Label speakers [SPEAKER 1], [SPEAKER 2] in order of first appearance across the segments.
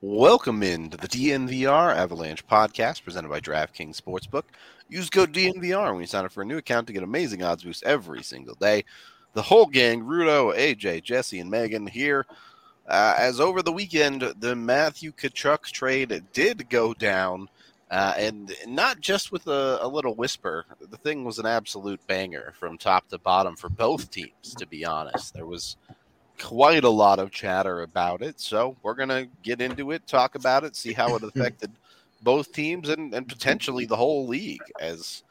[SPEAKER 1] Welcome into the DNVR Avalanche podcast presented by DraftKings Sportsbook. Use code DNVR when you sign up for a new account to get amazing odds boosts every single day. The whole gang, Rudo, AJ, Jesse, and Megan here. As over the weekend, the Matthew Tkachuk trade did go down, and not just with a little whisper. The thing was an absolute banger from top to bottom for both teams, to be honest. There was quite a lot of chatter about it, so we're going to get into it, talk about it, see how it affected both teams and potentially the whole league. As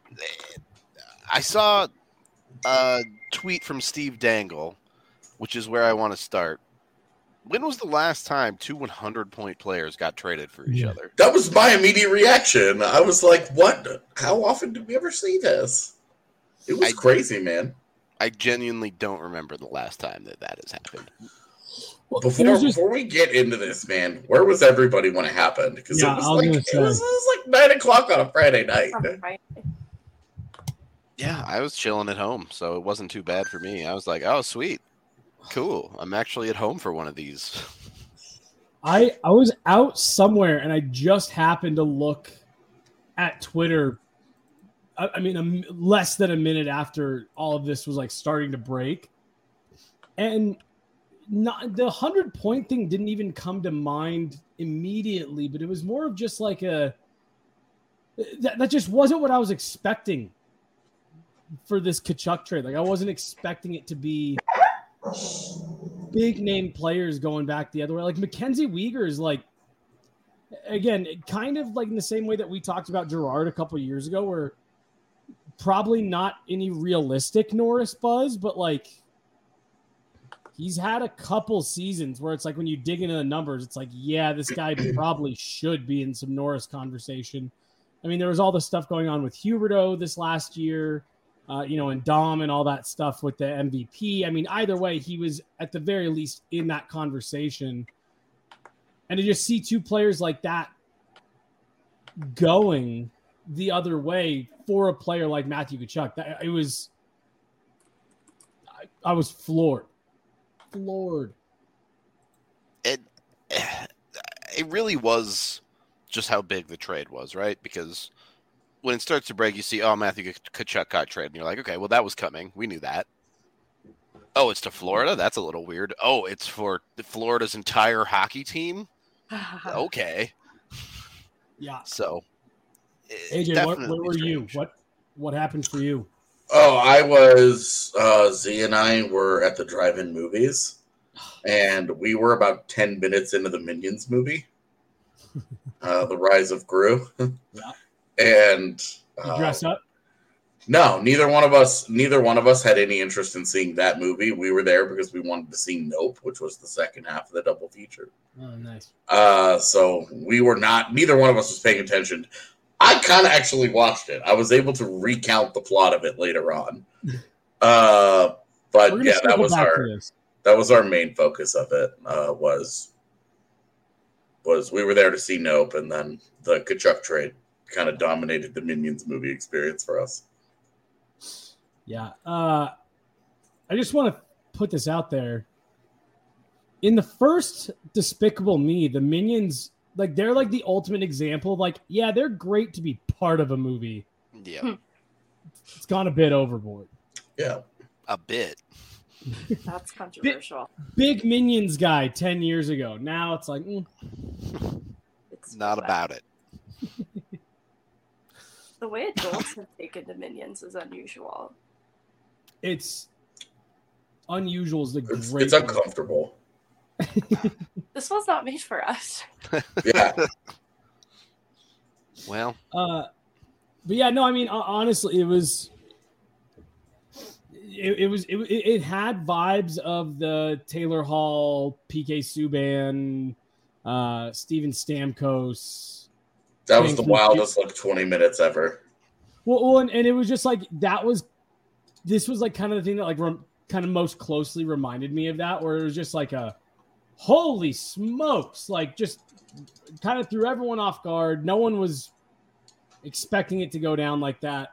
[SPEAKER 1] I saw a tweet from Steve Dangle, which is where I want to start. When was the last time two 100-point players got traded for each other?
[SPEAKER 2] That was my immediate reaction. I was like, what? How often did we ever see this? It was crazy, man.
[SPEAKER 1] I genuinely don't remember the last time that has happened.
[SPEAKER 2] Well, before we get into this, man, where was everybody when it happened? Because it was like 9 o'clock on a Friday night.
[SPEAKER 1] Yeah, I was chilling at home, so it wasn't too bad for me. I was like, oh, sweet. Cool. I'm actually at home for one of these.
[SPEAKER 3] I was out somewhere, and I just happened to look at Twitter. I mean, less than a minute after all of this was like starting to break, and the 100-point thing didn't even come to mind immediately. But it was more of just like that just wasn't what I was expecting for this Tkachuk trade. Like I wasn't expecting it to be big name players going back the other way. Like Mackenzie Weegar is like, again, kind of like in the same way that we talked about Gerard a couple of years ago, where probably not any realistic Norris buzz, but like he's had a couple seasons where it's like when you dig into the numbers, it's like, yeah, this guy probably should be in some Norris conversation. I mean, there was all the stuff going on with Huberdeau this last year, and Dom and all that stuff with the MVP. I mean, either way, he was at the very least in that conversation. And to just see two players like that going the other way for a player like Matthew Tkachuk, I was floored.
[SPEAKER 1] It really was just how big the trade was, right? Because when it starts to break, you see, oh, Matthew Tkachuk got traded, and you're like, okay, well, that was coming. We knew that. Oh, it's to Florida? That's a little weird. Oh, it's for Florida's entire hockey team? Okay.
[SPEAKER 3] Yeah.
[SPEAKER 1] So,
[SPEAKER 3] AJ, where were you? What happened for you?
[SPEAKER 2] Oh, I was, Z and I were at the drive-in movies, and we were about 10 minutes into the Minions movie, The Rise of Gru.
[SPEAKER 3] Yeah.
[SPEAKER 2] And
[SPEAKER 3] you dress up?
[SPEAKER 2] No, neither one of us had any interest in seeing that movie. We were there because we wanted to see Nope, which was the second half of the double feature.
[SPEAKER 3] Oh, nice.
[SPEAKER 2] So we were not, neither one of us was paying attention. I kind of actually watched it. I was able to recount the plot of it later on. But yeah, that was our main focus of it, was we were there to see Nope, and then the Tkachuk trade kind of dominated the Minions movie experience for us.
[SPEAKER 3] Yeah. I just want to put this out there. In the first Despicable Me, the Minions, like, they're like the ultimate example of like, yeah, they're great to be part of a movie.
[SPEAKER 1] Yeah.
[SPEAKER 3] It's gone a bit overboard.
[SPEAKER 2] Yeah.
[SPEAKER 1] A bit.
[SPEAKER 4] That's controversial.
[SPEAKER 3] Big Minions guy 10 years ago. Now it's like,
[SPEAKER 4] It's
[SPEAKER 1] not about it.
[SPEAKER 4] The way adults have taken to Minions is unusual.
[SPEAKER 3] It's unusual is the great.
[SPEAKER 2] It's uncomfortable.
[SPEAKER 4] This was not made for us.
[SPEAKER 2] Yeah.
[SPEAKER 1] Well.
[SPEAKER 3] But yeah, no, I mean, honestly, it had vibes of the Taylor Hall, PK Subban, Steven Stamkos.
[SPEAKER 2] That was the wildest 20 minutes ever.
[SPEAKER 3] Well, and it was just like this was like kind of the thing that like kind of most closely reminded me of that, where it was just like a holy smokes, like just kind of threw everyone off guard. No one was expecting it to go down like that.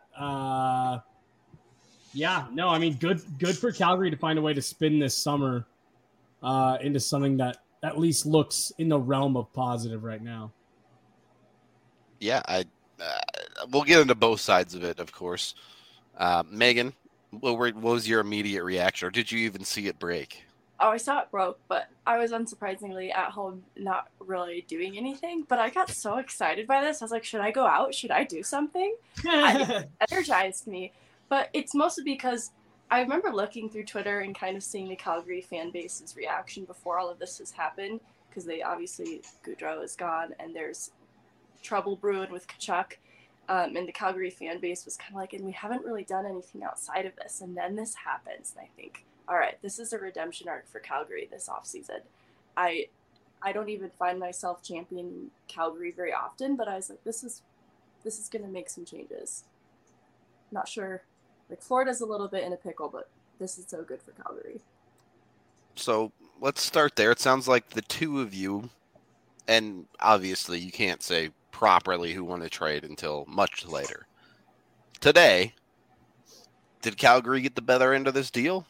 [SPEAKER 3] Yeah, no, I mean, good for Calgary to find a way to spin this summer into something that at least looks in the realm of positive right now.
[SPEAKER 1] Yeah, we'll get into both sides of it, of course. Megan, what was your immediate reaction, or did you even see it break?
[SPEAKER 4] Oh, I saw it broke, but I was unsurprisingly at home not really doing anything. But I got so excited by this. I was like, should I go out? Should I do something? It energized me. But it's mostly because I remember looking through Twitter and kind of seeing the Calgary fan base's reaction before all of this has happened. Because they obviously, Gaudreau is gone and there's trouble brewing with Tkachuk. And the Calgary fan base was kind of like, and we haven't really done anything outside of this. And then this happens. And I think, all right, this is a redemption arc for Calgary this offseason. I don't even find myself championing Calgary very often, but I was like, this is going to make some changes. Not sure. Like, Florida's a little bit in a pickle, but this is so good for Calgary.
[SPEAKER 1] So let's start there. It sounds like the two of you, and obviously you can't say properly who won the trade until much later. Today, did Calgary get the better end of this deal?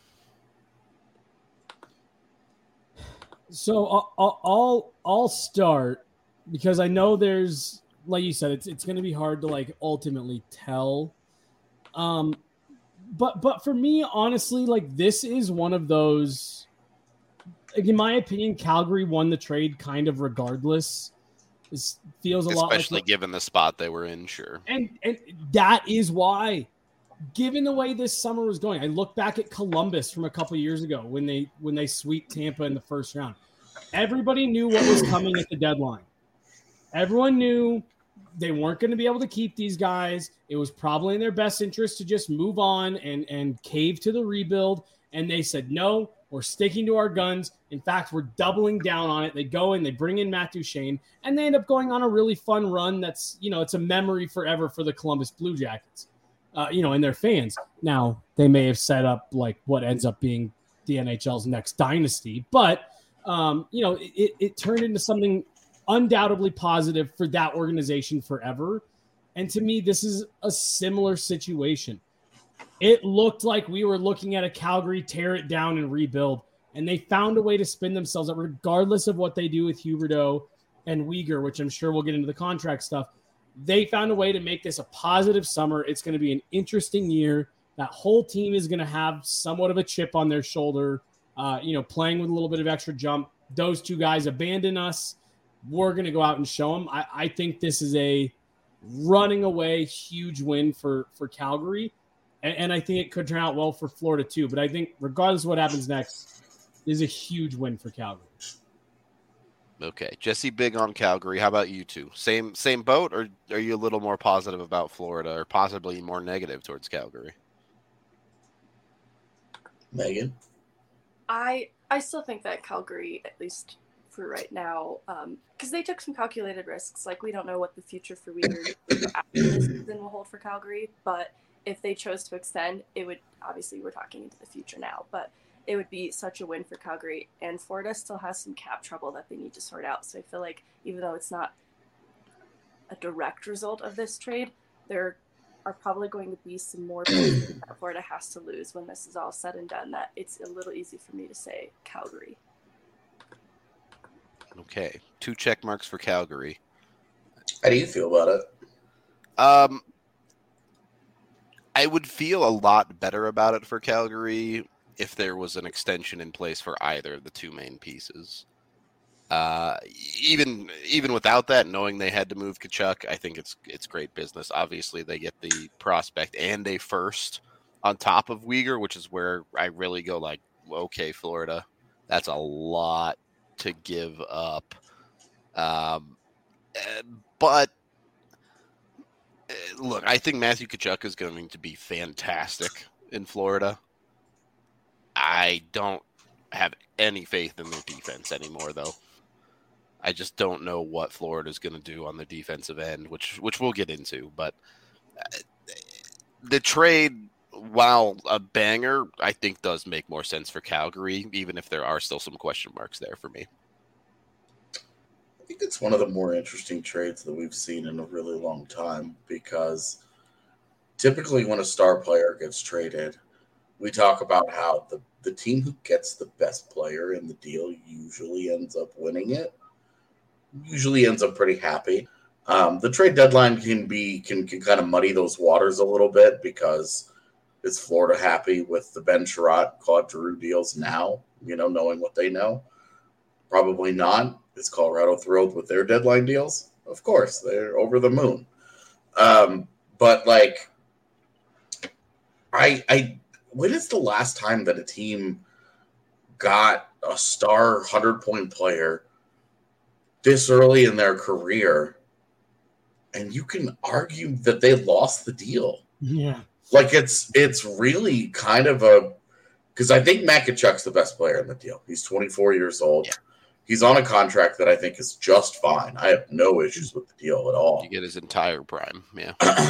[SPEAKER 3] So I'll start because I know there's, like you said, it's going to be hard to like ultimately tell. But for me, honestly, like this is one of those, like, in my opinion, Calgary won the trade kind of regardless. This feels a lot like,
[SPEAKER 1] especially given the spot they were in, sure.
[SPEAKER 3] And that is why, given the way this summer was going, I look back at Columbus from a couple years ago when they swept Tampa in the first round. Everybody knew what was coming at the deadline. Everyone knew they weren't going to be able to keep these guys. It was probably in their best interest to just move on and cave to the rebuild. And they said, no, we're sticking to our guns. In fact, we're doubling down on it. They go and they bring in Matt Duchene, and they end up going on a really fun run that's, it's a memory forever for the Columbus Blue Jackets. And their fans. Now, they may have set up like what ends up being the NHL's next dynasty, but, it turned into something undoubtedly positive for that organization forever. And to me, this is a similar situation. It looked like we were looking at a Calgary tear it down and rebuild, and they found a way to spin themselves up regardless of what they do with Huberdeau and Weegar, which I'm sure we'll get into the contract stuff. They found a way to make this a positive summer. It's going to be an interesting year. That whole team is going to have somewhat of a chip on their shoulder, playing with a little bit of extra jump. Those two guys abandon us. We're going to go out and show them. I think this is a running away huge win for Calgary. And I think it could turn out well for Florida too. But I think regardless of what happens next, is a huge win for Calgary.
[SPEAKER 1] Okay, Jesse, big on Calgary. How about you two? Same boat, or are you a little more positive about Florida, or possibly more negative towards Calgary?
[SPEAKER 2] Megan,
[SPEAKER 4] I still think that Calgary, at least for right now, because they took some calculated risks. Like, we don't know what the future for Weegar after this season will hold for Calgary, but if they chose to extend, it would, obviously we're talking into the future now, but it would be such a win for Calgary. And Florida still has some cap trouble that they need to sort out. So I feel like even though it's not a direct result of this trade, there are probably going to be some more pieces that Florida has to lose when this is all said and done, that it's a little easy for me to say Calgary.
[SPEAKER 1] Okay, 2 check marks for Calgary.
[SPEAKER 2] How do you feel about it?
[SPEAKER 1] I would feel a lot better about it for Calgary if there was an extension in place for either of the two main pieces. Even without that, knowing they had to move Tkachuk, I think it's great business. Obviously, they get the prospect and a first on top of Weegar, which is where I really go like, okay, Florida, that's a lot to give up. But look, I think Matthew Tkachuk is going to be fantastic in Florida. I don't have any faith in their defense anymore, though. I just don't know what Florida's going to do on the defensive end, which we'll get into. But the trade, while a banger, I think does make more sense for Calgary, even if there are still some question marks there for me.
[SPEAKER 2] I think it's one of the more interesting trades that we've seen in a really long time, because typically when a star player gets traded, we talk about how the team who gets the best player in the deal usually ends up winning it. Usually ends up pretty happy. The trade deadline can kind of muddy those waters a little bit because is Florida happy with the Ben Sherratt, Claude Giroux deals now, knowing what they know? Probably not. Is Colorado thrilled with their deadline deals? Of course, they're over the moon. But like, when is the last time that a team got a star 100-point player this early in their career, and you can argue that they lost the deal?
[SPEAKER 3] Yeah.
[SPEAKER 2] Like it's really kind of because I think Matt Tkachuk's the best player in the deal. He's 24 years old. Yeah. He's on a contract that I think is just fine. I have no issues with the deal at all.
[SPEAKER 1] You get his entire prime, yeah.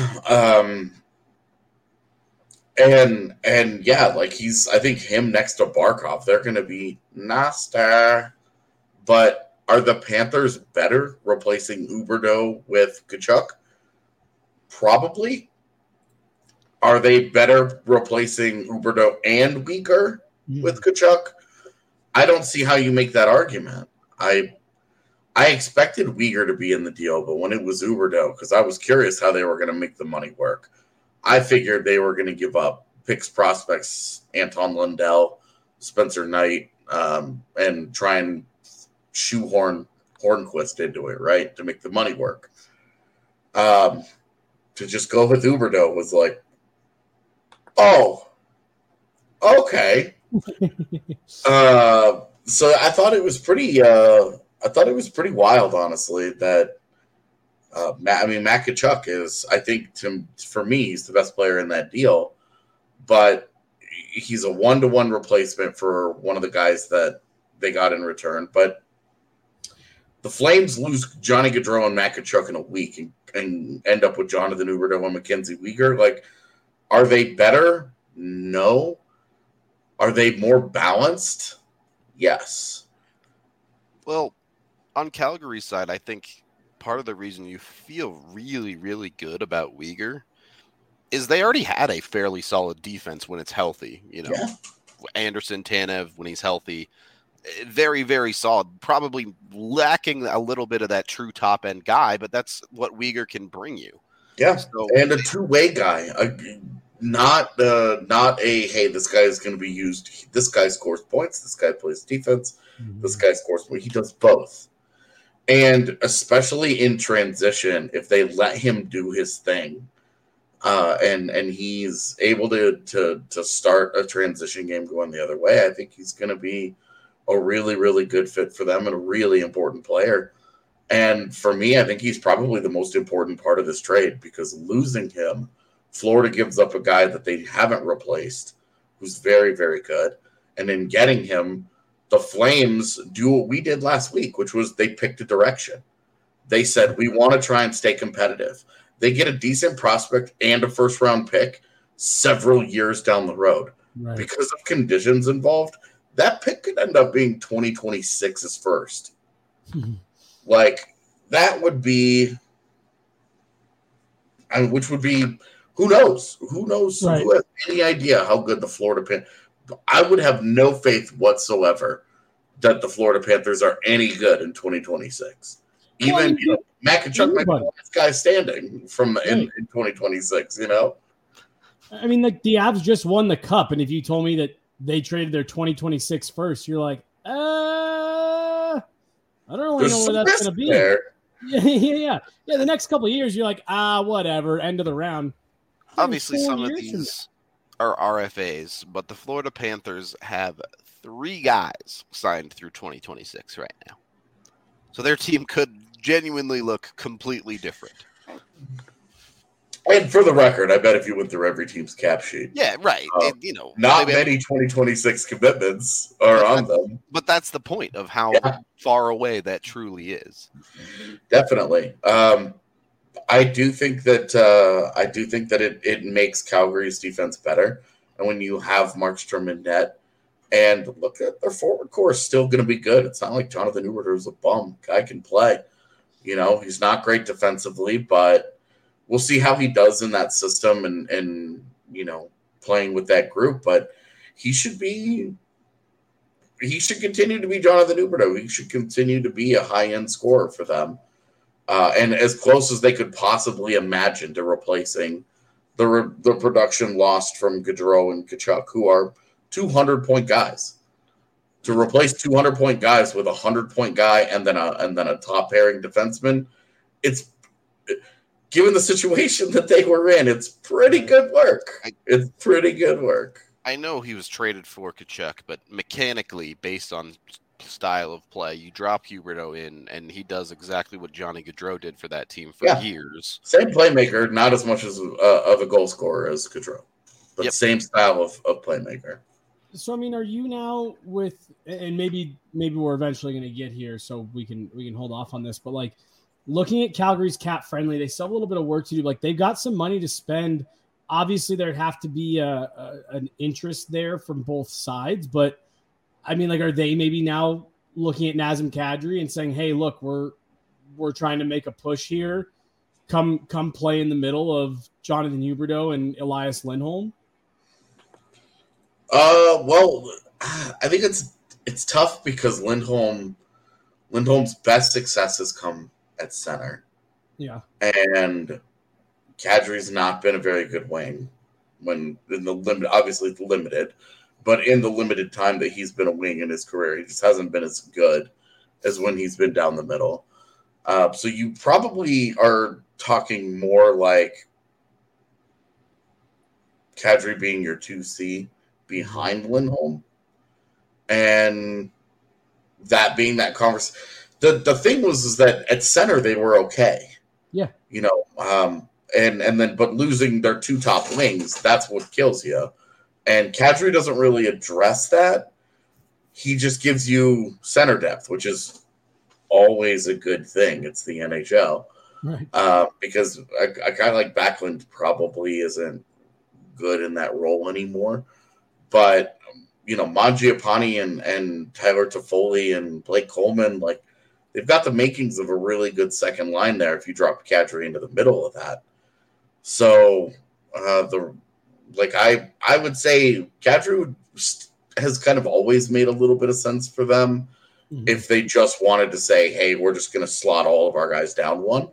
[SPEAKER 2] And yeah, like I think him next to Barkov, they're going to be nasty. But are the Panthers better replacing Huberdeau with Tkachuk? Probably. Are they better replacing Huberdeau and Weegar with Tkachuk? I don't see how you make that argument. I expected Weegar to be in the deal, but when it was Huberdeau, because I was curious how they were going to make the money work, I figured they were going to give up picks, prospects, Anton Lundell, Spencer Knight, and try and shoehorn Hornquist into it, right, to make the money work. To just go with Huberdeau was like, oh, okay. So I thought it was pretty. I thought it was pretty wild, honestly. That Matt Tkachuk is. I think for me, he's the best player in that deal. But he's a 1-to-1 replacement for one of the guys that they got in return. But the Flames lose Johnny Gaudreau and Matt Tkachuk in a week and end up with Jonathan Huberdeau and Mackenzie Weegar. Like, are they better? No. Are they more balanced? Yes.
[SPEAKER 1] Well, on Calgary's side, I think part of the reason you feel really, really good about Weegar is they already had a fairly solid defense when it's healthy. Yeah. Anderson, Tanev, when he's healthy, very, very solid. Probably lacking a little bit of that true top-end guy, but that's what Weegar can bring you.
[SPEAKER 2] Yeah, and a two-way guy. Not a, hey, this guy is going to be used. This guy scores points. This guy plays defense. Mm-hmm. This guy scores points. He does both. And especially in transition, if they let him do his thing, and he's able to start a transition game going the other way, I think he's going to be a really, really good fit for them and a really important player. And for me, I think he's probably the most important part of this trade because losing him, Florida gives up a guy that they haven't replaced, who's very, very good. And in getting him, the Flames do what we did last week, which was they picked a direction. They said, we want to try and stay competitive. They get a decent prospect and a first-round pick several years down the road. Right. Because of conditions involved, that pick could end up being 2026's first. Like, that would be – which would be – who knows? Who knows? Right. Who has any idea how good the Florida Panthers – I would have no faith whatsoever that the Florida Panthers are any good in 2026. Even Matt Tkachuk might be the last guy standing in 2026,
[SPEAKER 3] I mean, like, the Avs just won the Cup, and if you told me that they traded their 2026 first, you're like, I don't really know where that's going to be. Yeah. The next couple of years, you're like, whatever, end of the round.
[SPEAKER 1] Obviously, some of these are RFAs, but the Florida Panthers have 3 guys signed through 2026 right now. So their team could genuinely look completely different.
[SPEAKER 2] And for the record, I bet if you went through every team's cap sheet.
[SPEAKER 1] Yeah, right.
[SPEAKER 2] Not many 2026 commitments are on them.
[SPEAKER 1] But that's the point of how far away that truly is.
[SPEAKER 2] Definitely. I do think that it makes Calgary's defense better. And when you have Markstrom in net, and look at their forward core is still going to be good. It's not like Jonathan Huberdeau is a bum. Guy can play. He's not great defensively, but we'll see how he does in that system and playing with that group, but he should continue to be Jonathan Huberdeau. He should continue to be a high-end scorer for them. And as close as they could possibly imagine to replacing the production lost from Gaudreau and Tkachuk, who are 200-point guys. To replace 200-point guys with a 100-point guy and then a top-pairing defenseman, it's given the situation that they were in, it's pretty good work. It's pretty good work.
[SPEAKER 1] I know he was traded for Tkachuk, but mechanically, based on style of play, you drop Huberdeau in, and he does exactly what Johnny Gaudreau did for that team for years.
[SPEAKER 2] Same playmaker, not as much as of a goal scorer as Gaudreau, but same style of playmaker.
[SPEAKER 3] So, I mean, are you now with, and maybe we're eventually going to get here, so we can hold off on this, but like looking at Calgary's cap friendly, they still have a little bit of work to do. Like they've got some money to spend. Obviously, there'd have to be an interest there from both sides, but I mean, like, are they maybe now looking at Nazem Kadri and saying, "Hey, look, we're trying to make a push here. Come play in the middle of Jonathan Huberdeau and Elias Lindholm"?
[SPEAKER 2] Well, I think it's tough because Lindholm's best success has come at center.
[SPEAKER 3] Yeah,
[SPEAKER 2] and Kadri's not been a very good wing when in the limit. Obviously, it's limited. But in the limited time that he's been a wing in his career, he just hasn't been as good as when he's been down the middle. So you probably are talking more like Kadri being your 2C behind Lindholm. And that being that conversation. The thing is that at center they were okay.
[SPEAKER 3] Yeah.
[SPEAKER 2] You know, but losing their two top wings, that's what kills you. And Kadri doesn't really address that. He just gives you center depth, which is always a good thing. It's the NHL.
[SPEAKER 3] Right.
[SPEAKER 2] Because a guy like Backlund probably isn't good in that role anymore. But, you know, Mangiapane and Tyler Toffoli and Blake Coleman, like, they've got the makings of a really good second line there if you drop Kadri into the middle of that. So, I would say Kadri has kind of always made a little bit of sense for them if they just wanted to say, hey, we're just going to slot all of our guys down one.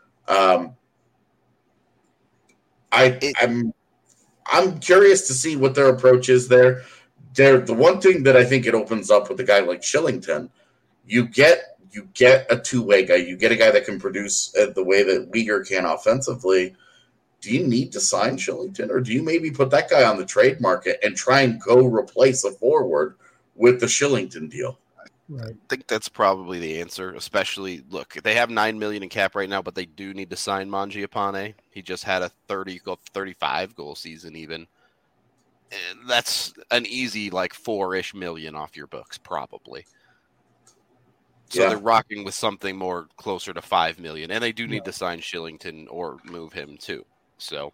[SPEAKER 2] I'm curious to see what their approach is there. The one thing that I think it opens up with a guy like Shillington, you get a two-way guy. You get a guy that can produce the way that Weegar can offensively. Do you need to sign Shillington, or do you maybe put that guy on the trade market and try and go replace a forward with the Shillington deal?
[SPEAKER 1] Right. I think that's probably the answer, especially, look, they have $9 million in cap right now, but they do need to sign Mangiapane. He just had a 35 goal season even. And that's an easy, like, $4-ish million off your books, probably. So they're rocking with something more closer to $5 million, and they do need to sign Shillington or move him too. So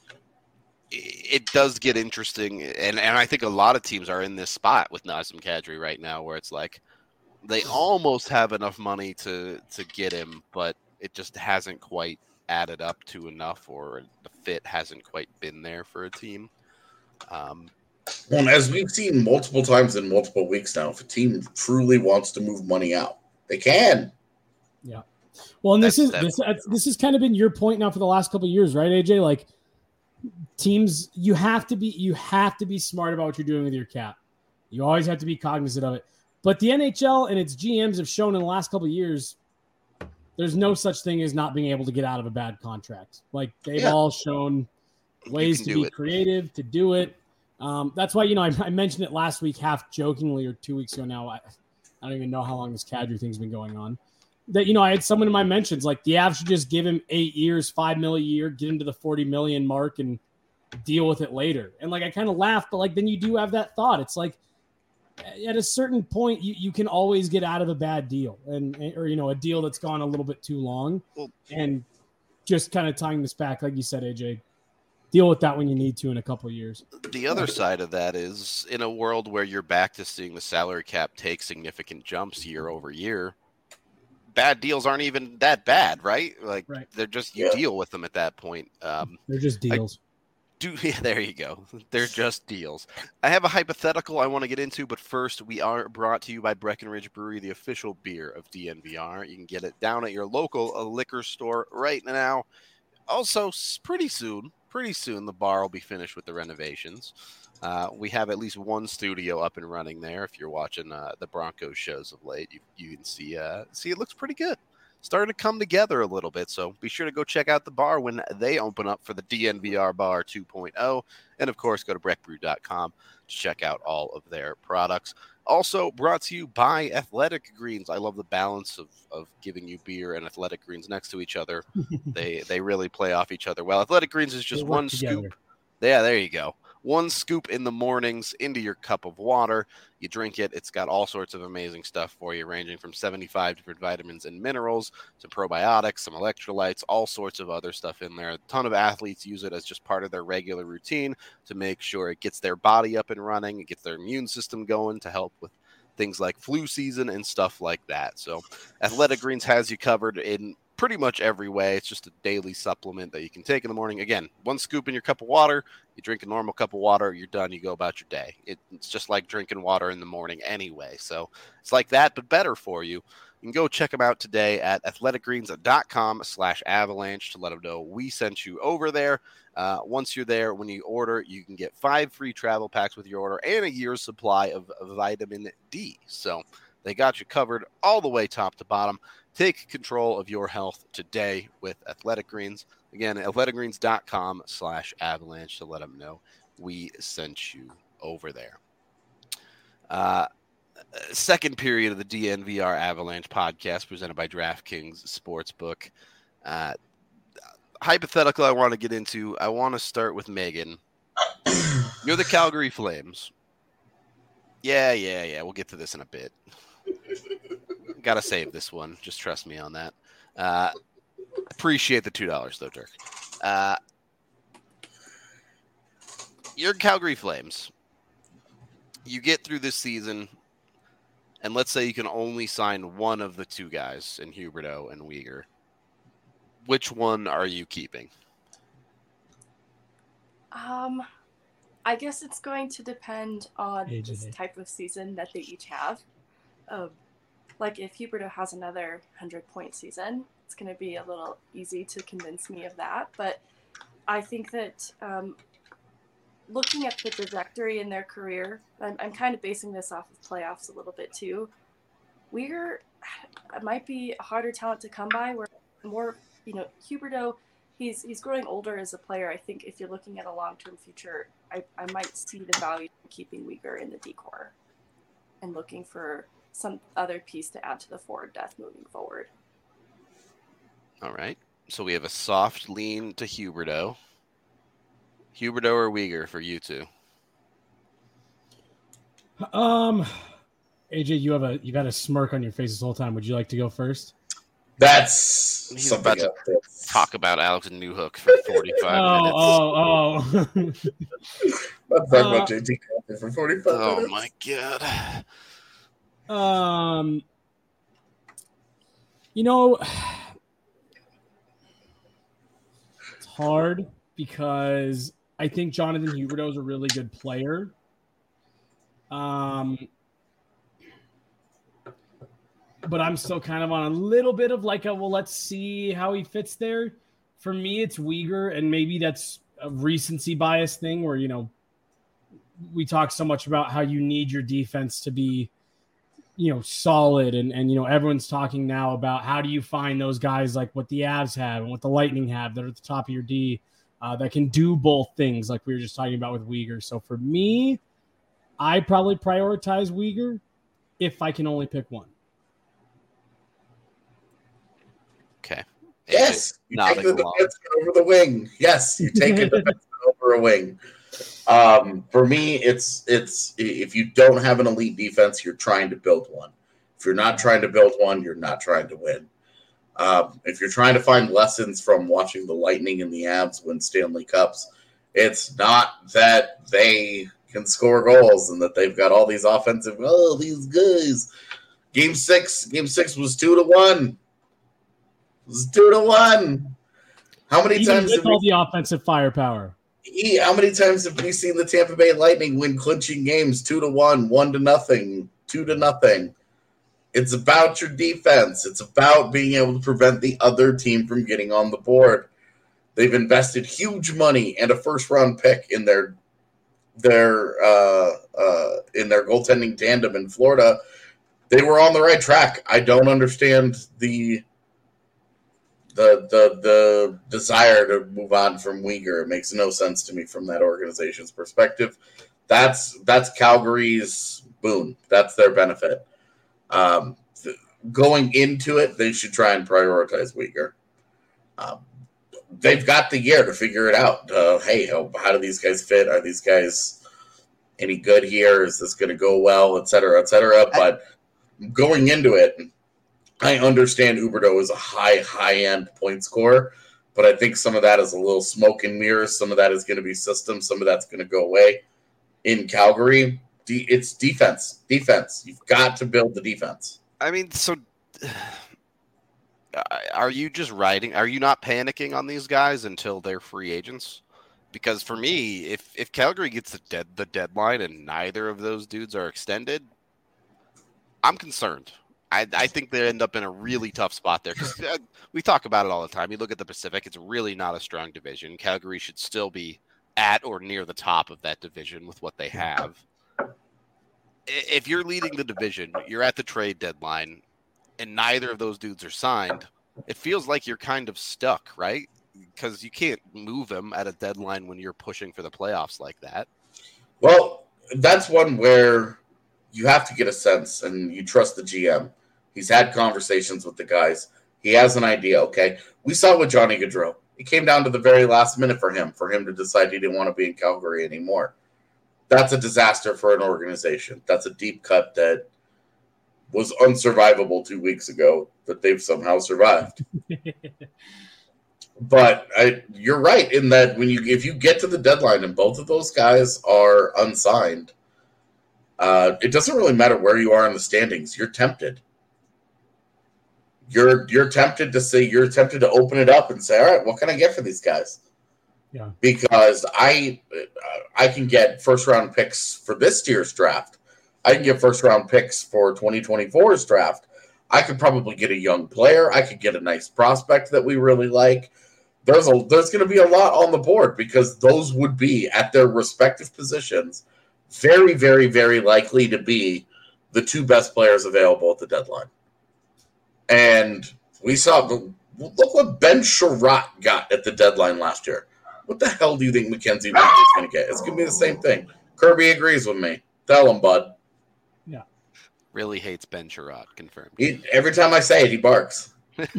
[SPEAKER 1] it does get interesting, and I think a lot of teams are in this spot with Nazem Kadri right now, where it's like they almost have enough money to get him, but it just hasn't quite added up to enough, or the fit hasn't quite been there for a team.
[SPEAKER 2] Well, as we've seen multiple times in multiple weeks now, if a team truly wants to move money out, they can.
[SPEAKER 3] Yeah. Well, and this has kind of been your point now for the last couple of years, right, AJ? Like teams, you have to be smart about what you're doing with your cap. You always have to be cognizant of it. But the NHL and its GMs have shown in the last couple of years, there's no such thing as not being able to get out of a bad contract. Like they've all shown ways to be creative, to do it. That's why, I mentioned it last week, half jokingly, or 2 weeks ago now. I don't even know how long this Kadri thing's been going on. That, I had someone in my mentions, like the Avs should just give him 8 years, $5 million a year, get him to the 40 million mark and deal with it later. And like, I kind of laughed, but like, then you do have that thought. It's like at a certain point, you can always get out of a bad deal or a deal that's gone a little bit too long. And just kind of tying this back, like you said, AJ, deal with that when you need to in a couple of years.
[SPEAKER 1] The other side of that is in a world where you're back to seeing the salary cap take significant jumps year over year, bad deals aren't even that bad, right? Like they're just, you deal with them at that point.
[SPEAKER 3] They're just deals.
[SPEAKER 1] Yeah, there you go. They're just deals. I have a hypothetical I want to get into, but first, we are brought to you by Breckenridge Brewery, the official beer of DNVR. You can get it down at your local liquor store right now. Also, pretty soon, the bar will be finished with the renovations. We have at least one studio up and running there. If you're watching the Broncos shows of late, you can see it looks pretty good. Starting to come together a little bit, so be sure to go check out the bar when they open up for the DNVR Bar 2.0. And, of course, go to breckbrew.com to check out all of their products. Also brought to you by Athletic Greens. I love the balance of giving you beer and Athletic Greens next to each other. They really play off each other well. Athletic Greens is just one scoop. Yeah, there you go. One scoop in the mornings into your cup of water. You drink it. It's got all sorts of amazing stuff for you, ranging from 75 different vitamins and minerals to probiotics, some electrolytes, all sorts of other stuff in there. A ton of athletes use it as just part of their regular routine to make sure it gets their body up and running. It gets their immune system going to help with things like flu season and stuff like that. So Athletic Greens has you covered in pretty much every way. It's just a daily supplement that you can take in the morning. Again, one scoop in your cup of water. You drink a normal cup of water, you're done, you go about your day. It's just like drinking water in the morning anyway. So it's like that, but better for you. You can go check them out today at athleticgreens.com/avalanche to let them know we sent you over there. Once you're there, when you order, you can get 5 free travel packs with your order and a year's supply of vitamin D. So they got you covered all the way top to bottom. Take control of your health today with Athletic Greens. Again, athleticgreens.com/avalanche to let them know we sent you over there. Second period of the DNVR Avalanche podcast presented by DraftKings Sportsbook. Hypothetical I want to get into. I want to start with Megan. You're the Calgary Flames. Yeah. We'll get to this in a bit. Got to save this one. Just trust me on that. Appreciate the $2, though, Dirk. You're Calgary Flames. You get through this season, and let's say you can only sign one of the two guys in Huberdeau and Weegar. Which one are you keeping?
[SPEAKER 4] I guess it's going to depend on this type of season that they each have. Like if Huberdeau has another 100-point season, it's going to be a little easy to convince me of that. But I think that looking at the trajectory in their career, I'm kind of basing this off of playoffs a little bit too. Weegar might be a harder talent to come by. Where more, Huberdeau, he's growing older as a player. I think if you're looking at a long-term future, I might see the value in keeping Weegar in the decor and looking for some other piece to add to the forward depth moving forward.
[SPEAKER 1] All right. So we have a soft lean to Huberdeau. Huberdeau or Weegar for you two?
[SPEAKER 3] AJ, you got a smirk on your face this whole time. Would you like to go first?
[SPEAKER 2] That's
[SPEAKER 1] He's
[SPEAKER 2] something
[SPEAKER 1] about to talk about Alex Newhook for 45 minutes.
[SPEAKER 2] Let's talk about JT for 45 minutes.
[SPEAKER 1] Oh my god.
[SPEAKER 3] It's hard because I think Jonathan Huberdeau is a really good player. But I'm still kind of on a little bit of like let's see how he fits there. For me, it's Weegar, and maybe that's a recency bias thing where, we talk so much about how you need your defense to be, solid. And everyone's talking now about how do you find those guys like what the Avs have and what the Lightning have that are at the top of your D that can do both things like we were just talking about with Weegar. So for me, I probably prioritize Weegar if I can only pick one.
[SPEAKER 1] Okay.
[SPEAKER 2] Yes, you take the defenseman over the wing. Yes, you take a defenseman over a wing. For me, it's if you don't have an elite defense, you're trying to build one. If you're not trying to build one, you're not trying to win. If you're trying to find lessons from watching the Lightning and the Avs win Stanley Cups, it's not that they can score goals and that they've got all these offensive. Oh, these guys. Game six was 2-1. It was 2-1. How many times
[SPEAKER 3] with all the offensive firepower?
[SPEAKER 2] How many times have we seen the Tampa Bay Lightning win clinching games 2-1, 1-0, 2-0? It's about your defense. It's about being able to prevent the other team from getting on the board. They've invested huge money and a first-round pick in their goaltending tandem in Florida. They were on the right track. I don't understand the desire to move on from Uyghur. It makes no sense to me from that organization's perspective. That's Calgary's boon. That's their benefit. Going into it, they should try and prioritize Uyghur. They've got the year to figure it out. Hey, how do these guys fit? Are these guys any good here? Is this going to go well, et cetera, et cetera? But going into it, I understand Huberdeau is a high-end point scorer, but I think some of that is a little smoke and mirrors. Some of that is going to be system. Some of that's going to go away. In Calgary, it's defense. Defense. You've got to build the defense.
[SPEAKER 1] I mean, so are you just riding? Are you not panicking on these guys until they're free agents? Because for me, if Calgary gets the deadline and neither of those dudes are extended, I'm concerned. I think they end up in a really tough spot there because we talk about it all the time. You look at the Pacific; it's really not a strong division. Calgary should still be at or near the top of that division with what they have. If you're leading the division, you're at the trade deadline, and neither of those dudes are signed, it feels like you're kind of stuck, right? Because you can't move them at a deadline when you're pushing for the playoffs like that.
[SPEAKER 2] Well, that's one where you have to get a sense, and you trust the GM. He's had conversations with the guys. He has an idea, okay? We saw with Johnny Gaudreau. It came down to the very last minute for him to decide he didn't want to be in Calgary anymore. That's a disaster for an organization. That's a deep cut that was unsurvivable 2 weeks ago that they've somehow survived. But you're right in that if you get to the deadline and both of those guys are unsigned, it doesn't really matter where you are in the standings. You're tempted. You're tempted to open it up and say, all right, what can I get for these guys?
[SPEAKER 3] Yeah.
[SPEAKER 2] Because I can get first round picks for this year's draft. I can get first round picks for 2024's draft. I could probably get a young player. I could get a nice prospect that we really like. There's going to be a lot on the board because those would be at their respective positions very, very, very likely to be the two best players available at the deadline. And we saw, look what Ben Sherratt got at the deadline last year. What the hell do you think Mackenzie Weegar is going to get? It's going to be the same thing. Kirby agrees with me. Tell him, bud.
[SPEAKER 3] Yeah.
[SPEAKER 1] Really hates Ben Sherratt, confirmed.
[SPEAKER 2] Every time I say it, he barks.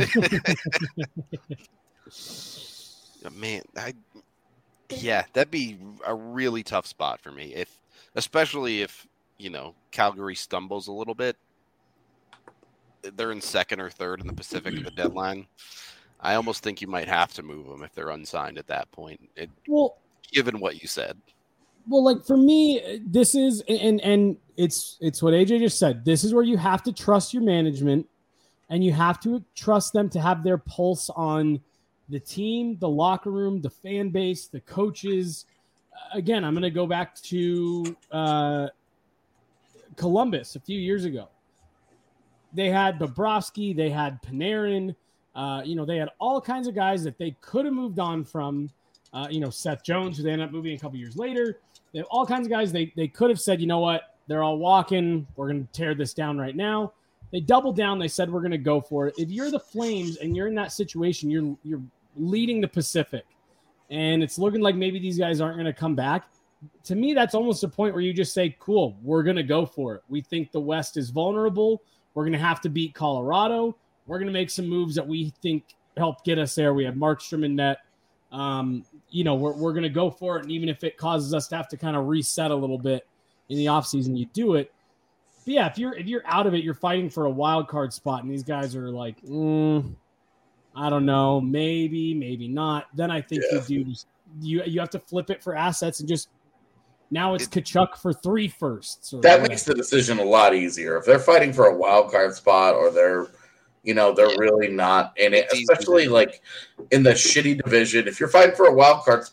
[SPEAKER 1] Man, that'd be a really tough spot for me. Especially if, Calgary stumbles a little bit. They're in second or third in the Pacific at the deadline. I almost think you might have to move them if they're unsigned at that point. Given what you said.
[SPEAKER 3] Well, like for me, this is and it's what AJ just said. This is where you have to trust your management, and you have to trust them to have their pulse on the team, the locker room, the fan base, the coaches. Again, I'm going to go back to Columbus a few years ago. They had Bobrovsky, they had Panarin, they had all kinds of guys that they could have moved on from. Seth Jones, who they ended up moving a couple years later. They have all kinds of guys they could have said, you know what, they're all walking. We're going to tear this down right now. They doubled down. They said, we're going to go for it. If you're the Flames and you're in that situation, you're leading the Pacific, and it's looking like maybe these guys aren't going to come back. To me, that's almost a point where you just say, cool, we're going to go for it. We think the West is vulnerable. We're going to have to beat Colorado. We're going to make some moves that we think help get us there. We have Markstrom in net. We're going to go for it. And even if it causes us to have to kind of reset a little bit in the offseason, you do it. But yeah, if you're out of it, you're fighting for a wild card spot, and these guys are like, I don't know, maybe not. Then I think you have to flip it for assets and just now it's Tkachuk for 3 firsts.
[SPEAKER 2] That makes the decision a lot easier. If they're fighting for a wild card spot or they're really not in it, especially like in the shitty division. If you're fighting for a wild card spot,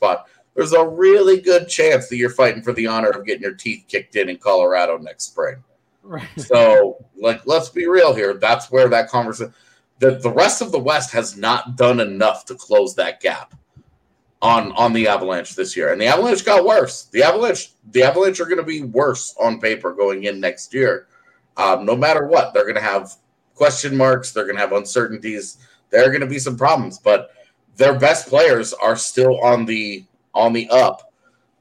[SPEAKER 2] there's a really good chance that you're fighting for the honor of getting your teeth kicked in Colorado next spring.
[SPEAKER 3] Right.
[SPEAKER 2] So, let's be real here. That's where that conversation. The rest of the West has not done enough to close that gap on the Avalanche this year, and the Avalanche got worse. The Avalanche are going to be worse on paper going in next year. No matter what, they're going to have question marks. They're going to have uncertainties. There are going to be some problems, but their best players are still on the up.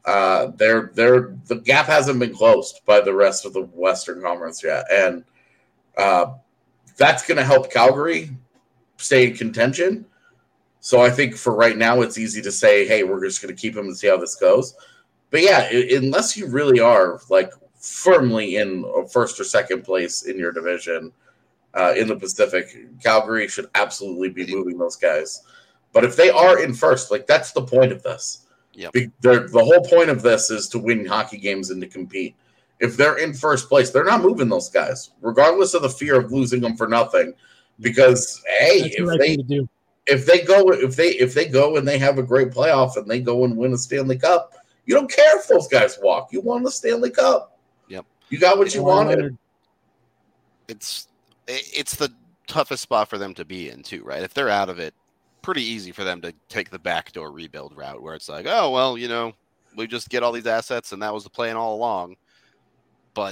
[SPEAKER 2] The gap hasn't been closed by the rest of the Western Conference yet, and that's going to help Calgary stay in contention. So I think for right now, it's easy to say, hey, we're just going to keep him and see how this goes. But yeah, unless you really are firmly in first or second place in your division in the Pacific, Calgary should absolutely be moving those guys. But if they are in first, that's the point of this.
[SPEAKER 1] Yep.
[SPEAKER 2] The whole point of this is to win hockey games and to compete. If they're in first place, they're not moving those guys, regardless of the fear of losing them for nothing. Because hey, if they go and they have a great playoff and they go and win a Stanley Cup, you don't care if those guys walk. You won the Stanley Cup.
[SPEAKER 1] Yep.
[SPEAKER 2] You got what you wanted.
[SPEAKER 1] It's the toughest spot for them to be in too, right? If they're out of it, pretty easy for them to take the backdoor rebuild route where it's like, oh, well, we just get all these assets and that was the plan all along. But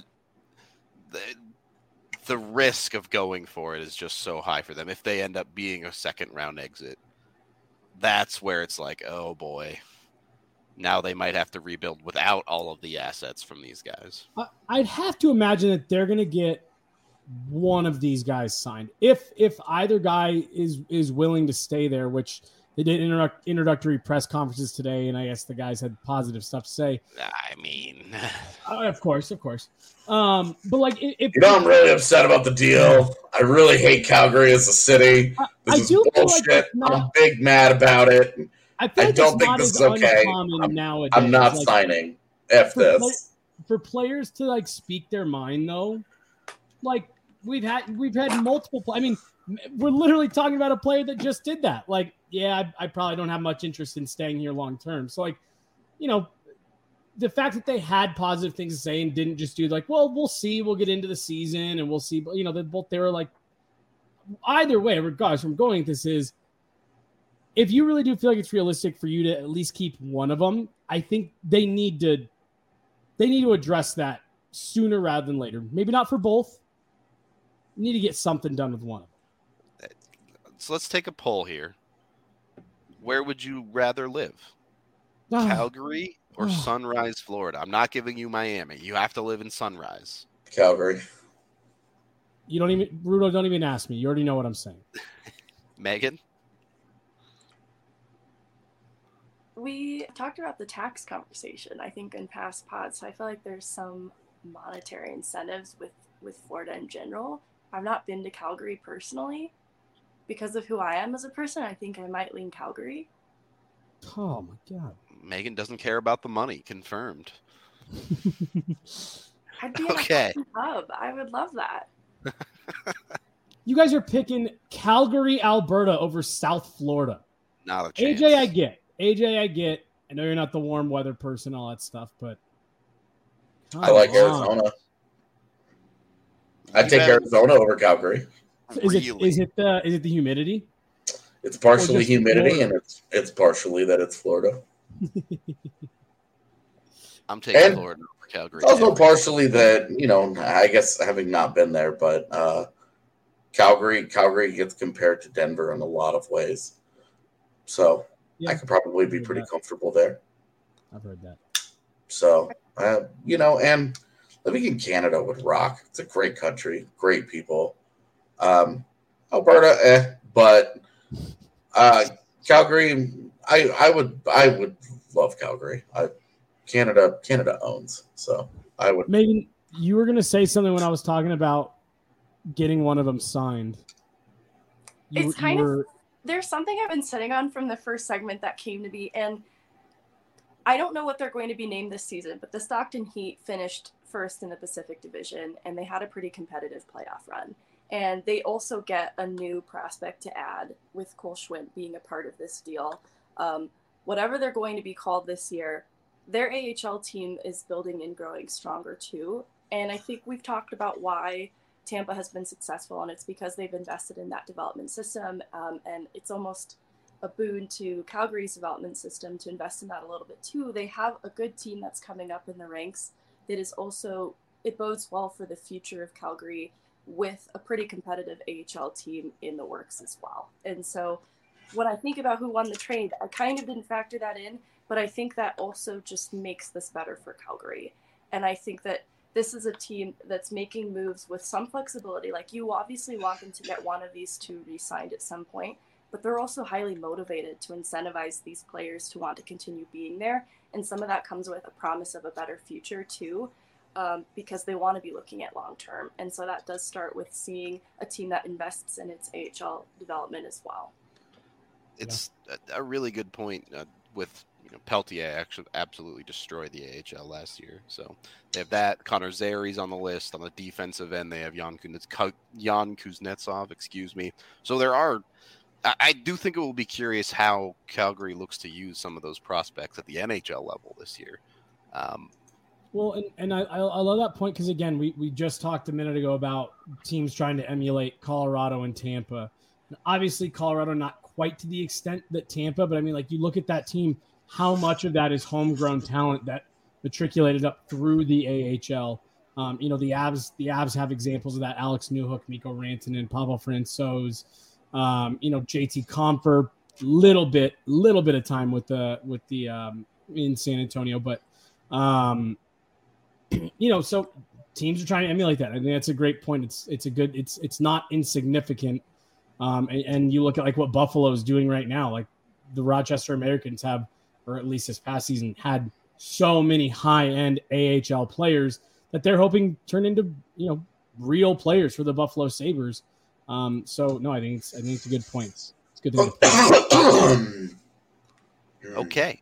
[SPEAKER 1] the risk of going for it is just so high for them. If they end up being a second round exit, that's where it's like, oh boy, now they might have to rebuild without all of the assets from these guys.
[SPEAKER 3] I'd have to imagine that they're going to get one of these guys signed. If either guy is willing to stay there, which they did introductory press conferences today, and I guess the guys had positive stuff to say.
[SPEAKER 1] I mean,
[SPEAKER 3] of course. But if
[SPEAKER 2] I'm really upset about the deal. I really hate Calgary as a city. This is bullshit. I'm big mad about it. I don't think this is okay. I'm not signing. F this.
[SPEAKER 3] For players to speak their mind though, we've had multiple. I mean, we're literally talking about a player that just did that. I probably don't have much interest in staying here long term. So, the fact that they had positive things to say and didn't just do well, we'll see. We'll get into the season and we'll see. But they were either way, regardless from going. This is if you really do feel like it's realistic for you to at least keep one of them. I think they need to address that sooner rather than later. Maybe not for both. You need to get something done with one of them.
[SPEAKER 1] So let's take a poll here. Where would you rather live? Calgary or Sunrise, Florida? I'm not giving you Miami. You have to live in Sunrise.
[SPEAKER 2] Calgary.
[SPEAKER 3] Rudo, don't even ask me. You already know what I'm saying.
[SPEAKER 1] Megan?
[SPEAKER 4] We talked about the tax conversation, I think, in past pods. So I feel like there's some monetary incentives with Florida in general. I've not been to Calgary personally. Because of who I am as a person, I think I might lean Calgary.
[SPEAKER 3] Oh, my God.
[SPEAKER 1] Megan doesn't care about the money. Confirmed.
[SPEAKER 4] I'd be in a pub. I would love that.
[SPEAKER 3] You guys are picking Calgary, Alberta over South Florida.
[SPEAKER 1] Not a chance.
[SPEAKER 3] AJ, I get. I know you're not the warm weather person, all that stuff, but
[SPEAKER 2] I like Arizona. I'd take Arizona over Calgary.
[SPEAKER 3] Is it the humidity?
[SPEAKER 2] It's partially humidity, Florida? And it's partially that it's Florida.
[SPEAKER 1] I'm taking Florida over Calgary.
[SPEAKER 2] It's also partially that, I guess having not been there, but Calgary gets compared to Denver in a lot of ways. So I could probably be pretty comfortable there.
[SPEAKER 3] I've heard that.
[SPEAKER 2] So, and living in Canada would rock. It's a great country, great people. Alberta, but Calgary, I would love Calgary. Canada owns, so I would.
[SPEAKER 3] Megan, you were going to say something when I was talking about getting one of them signed.
[SPEAKER 4] There's something I've been sitting on from the first segment that came to be, and I don't know what they're going to be named this season, but the Stockton Heat finished first in the Pacific Division, and they had a pretty competitive playoff run. And they also get a new prospect to add with Cole Schwindt being a part of this deal. whatever they're going to be called this year, their AHL team is building and growing stronger too. And I think we've talked about why Tampa has been successful, and it's because they've invested in that development system. And it's almost a boon to Calgary's development system to invest in that a little bit too. They have a good team that's coming up in the ranks that is also, it bodes well for the future of Calgary with a pretty competitive AHL team in the works as well. And so when I think about who won the trade, I kind of didn't factor that in, but I think that also just makes this better for Calgary. And I think that this is a team that's making moves with some flexibility. Like, you obviously want them to get one of these two re-signed at some point, but they're also highly motivated to incentivize these players to want to continue being there. And some of that comes with a promise of a better future too, because they want to be looking at long-term. And so that does start with seeing a team that invests in its AHL development as well.
[SPEAKER 1] It's a really good point with Peltier actually absolutely destroyed the AHL last year. So they have that. Connor Zary's on the list. On the defensive end, they have Jan Kuznetsov, excuse me. So there are, I do think it will be curious how Calgary looks to use some of those prospects at the NHL level this year.
[SPEAKER 3] Well, and I love that point because, again, we just talked a minute ago about teams trying to emulate Colorado and Tampa. And obviously, Colorado not quite to the extent that Tampa, but I mean, like, you look at that team, how much of that is homegrown talent that matriculated up through the AHL. The Avs have examples of that. Alex Newhook, Mikko Rantanen, Pavel Francouz, JT Compher, little bit of time with the in San Antonio, but so teams are trying to emulate that. I think that's a great point. It's not insignificant. And you look at like what Buffalo is doing right now. Like, the Rochester Americans have, or at least this past season, had so many high-end AHL players that they're hoping turn into real players for the Buffalo Sabres. I think it's a good point. It's good to
[SPEAKER 1] Okay.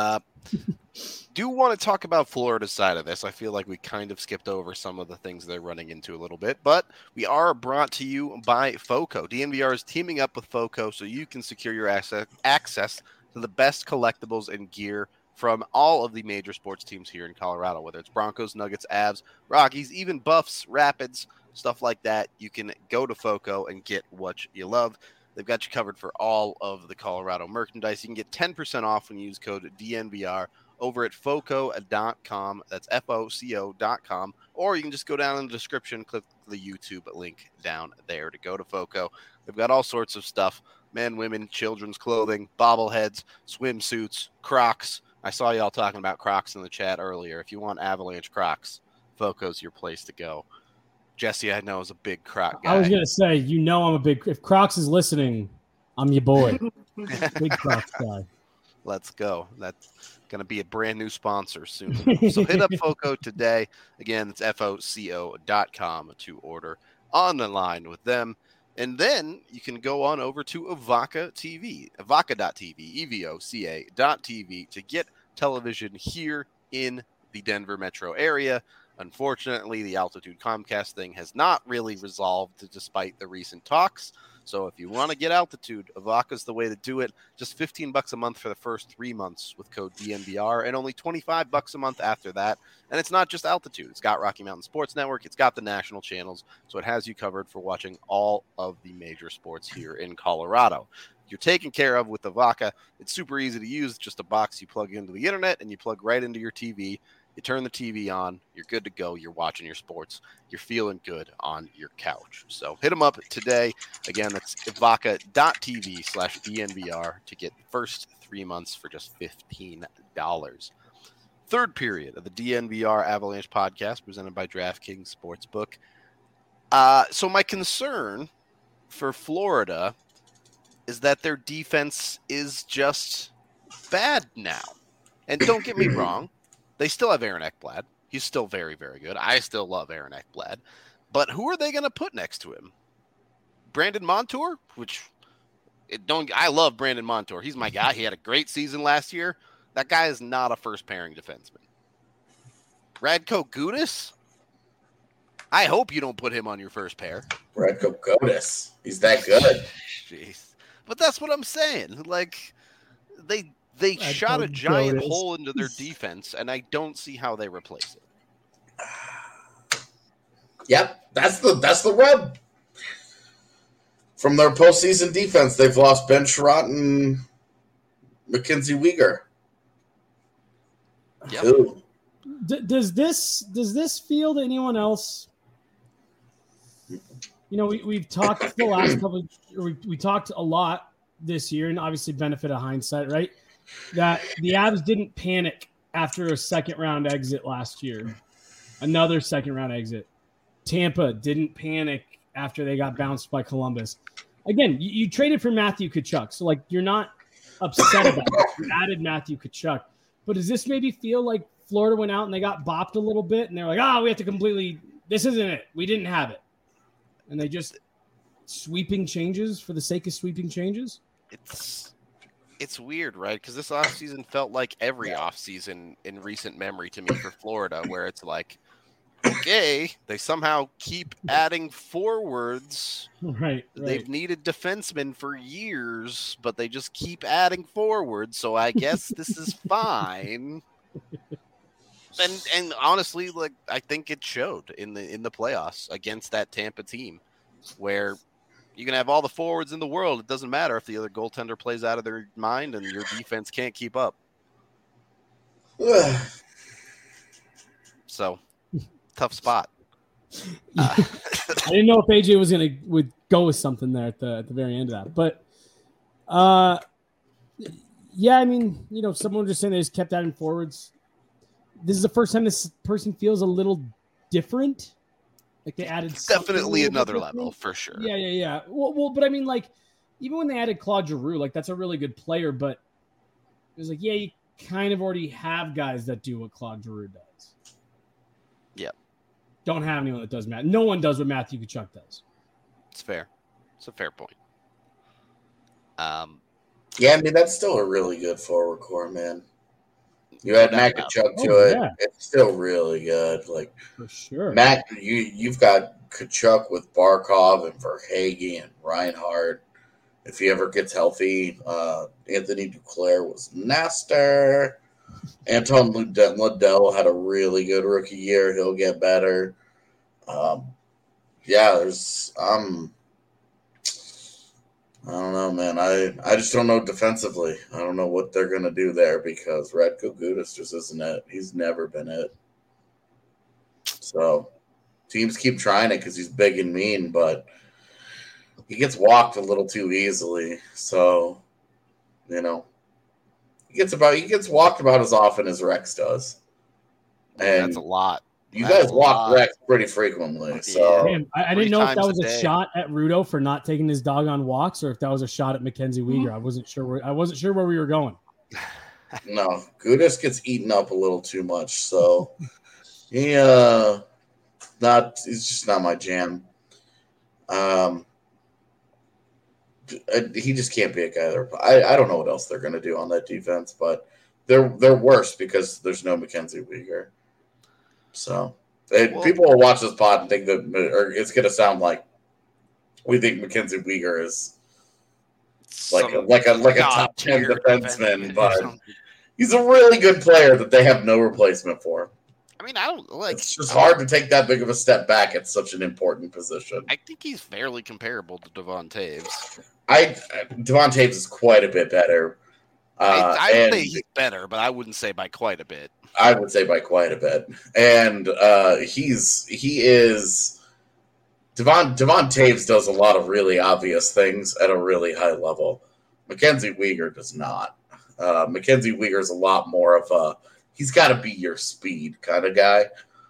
[SPEAKER 1] Do want to talk about Florida's side of this. I feel like we kind of skipped over some of the things they're running into a little bit, but we are brought to you by FOCO. DNVR is teaming up with FOCO so you can secure your access to the best collectibles and gear from all of the major sports teams here in Colorado, whether it's Broncos, Nuggets, Avs, Rockies, even Buffs, Rapids, stuff like that. You can go to FOCO and get what you love. They've got you covered for all of the Colorado merchandise. You can get 10% off when you use code DNVR over at FOCO.com. That's FOCO.com. Or you can just go down in the description, click the YouTube link down there to go to FOCO. They've got all sorts of stuff. Men, women, children's clothing, bobbleheads, swimsuits, Crocs. I saw y'all talking about Crocs in the chat earlier. If you want Avalanche Crocs, FOCO's your place to go. Jesse, I know, is a big Croc guy.
[SPEAKER 3] I was going to say, I'm a big – if Crocs is listening, I'm your boy. Big Crocs guy.
[SPEAKER 1] Let's go. That's going to be a brand new sponsor soon. So hit up FOCO today. Again, it's FOCO.com to order on the line with them. And then you can go on over to Evoca TV, Evoca.tv, EVOCA.tv to get television here in the Denver metro area. Unfortunately, the Altitude Comcast thing has not really resolved despite the recent talks. So if you want to get Altitude, Evoca's the way to do it. Just $15 a month for the first 3 months with code DNVR, and only $25 a month after that. And it's not just Altitude. It's got Rocky Mountain Sports Network. It's got the national channels. So it has you covered for watching all of the major sports here in Colorado. You're taken care of with Evoca. It's super easy to use. It's just a box you plug into the internet and you plug right into your TV. You turn the TV on, you're good to go. You're watching your sports. You're feeling good on your couch. So hit them up today. Again, that's evoca.tv/DNVR to get the first 3 months for just $15. Third period of the DNVR Avalanche podcast presented by DraftKings Sportsbook. So my concern for Florida is that their defense is just bad now. And don't get me wrong. They still have Aaron Ekblad. He's still very, very good. I still love Aaron Ekblad. But who are they going to put next to him? Brandon Montour? I love Brandon Montour. He's my guy. He had a great season last year. That guy is not a first-pairing defenseman. Radko Gudas? I hope you don't put him on your first pair.
[SPEAKER 2] Radko Gudas. He's that good.
[SPEAKER 1] Jeez. But that's what I'm saying. Like, They shot a giant hole into their defense, and I don't see how they replace it.
[SPEAKER 2] Yep, that's the rub. From their postseason defense, they've lost Ben Sherratt and Mackenzie Weegar.
[SPEAKER 3] Yep. Does this feel to anyone else? You know, we've talked the last couple. We talked a lot this year, and obviously benefit of hindsight, right? That the Avs didn't panic after a second-round exit last year. Another second-round exit. Tampa didn't panic after they got bounced by Columbus. Again, you traded for Matthew Tkachuk, so like you're not upset about it. You added Matthew Tkachuk. But does this maybe feel like Florida went out and they got bopped a little bit, and they're like, we have to completely – this isn't it. We didn't have it. And they just sweeping changes for the sake of sweeping changes?
[SPEAKER 1] It's weird, right? Because this offseason felt like every offseason in recent memory to me for Florida, where it's like, okay, they somehow keep adding forwards.
[SPEAKER 3] Right.
[SPEAKER 1] They've needed defensemen for years, but they just keep adding forwards, so I guess this is fine. And honestly, like I think it showed in the playoffs against that Tampa team, where you can have all the forwards in the world. It doesn't matter if the other goaltender plays out of their mind and your defense can't keep up. So, tough spot.
[SPEAKER 3] I didn't know if AJ would go with something there at the very end of that, but yeah, I mean, you know, someone just saying they just kept adding forwards. This is the first time this person feels a little different. Like they added
[SPEAKER 1] definitely another level for sure.
[SPEAKER 3] Yeah. Well, but I mean, like even when they added Claude Giroux, like that's a really good player, but it was like, you kind of already have guys that do what Claude Giroux does.
[SPEAKER 1] Yep.
[SPEAKER 3] Don't have anyone that does Matt. No one does what Matthew Tkachuk does.
[SPEAKER 1] It's fair. It's a fair point.
[SPEAKER 2] Yeah, I mean that's still a really good forward core, man. You add Matt Tkachuk to it. Yeah. It's still really good. Like
[SPEAKER 3] for sure.
[SPEAKER 2] Matt, you've got Tkachuk with Barkov and Verhaeghe and Reinhart. If he ever gets healthy, Anthony Duclair was nasty. Anton Lundell had a really good rookie year. He'll get better. I don't know, man. I just don't know defensively. I don't know what they're going to do there because Radko Gudas just isn't it. He's never been it. So teams keep trying it because he's big and mean, but he gets walked a little too easily. So, you know, he gets walked about as often as Rex does. And
[SPEAKER 1] that's a lot.
[SPEAKER 2] You guys walk Rex pretty frequently. So
[SPEAKER 3] damn, I didn't know if that was a shot at Rudo for not taking his dog on walks or if that was a shot at Mackenzie Weegar. I wasn't sure where we were going.
[SPEAKER 2] No, Gudas gets eaten up a little too much, so he's just not my jam. He just can't be a guy there. I don't know what else they're going to do on that defense, but they're worse because there's no Mackenzie Weegar. So people will watch this pod and think that, or it's going to sound like we think Mackenzie Weegar is like a top 10 defenseman, but he's a really good player that they have no replacement for.
[SPEAKER 1] I mean, I don't like.
[SPEAKER 2] It's just hard to take that big of a step back at such an important position.
[SPEAKER 1] I think he's fairly comparable to Devon Taves.
[SPEAKER 2] Devon Taves is quite a bit better.
[SPEAKER 1] I would say he's better, but I wouldn't say by quite a bit.
[SPEAKER 2] I would say by quite a bit. And Devon Taves does a lot of really obvious things at a really high level. Mackenzie Weegar does not. Mackenzie Weegar is a lot more of he's got to be your speed kind of guy.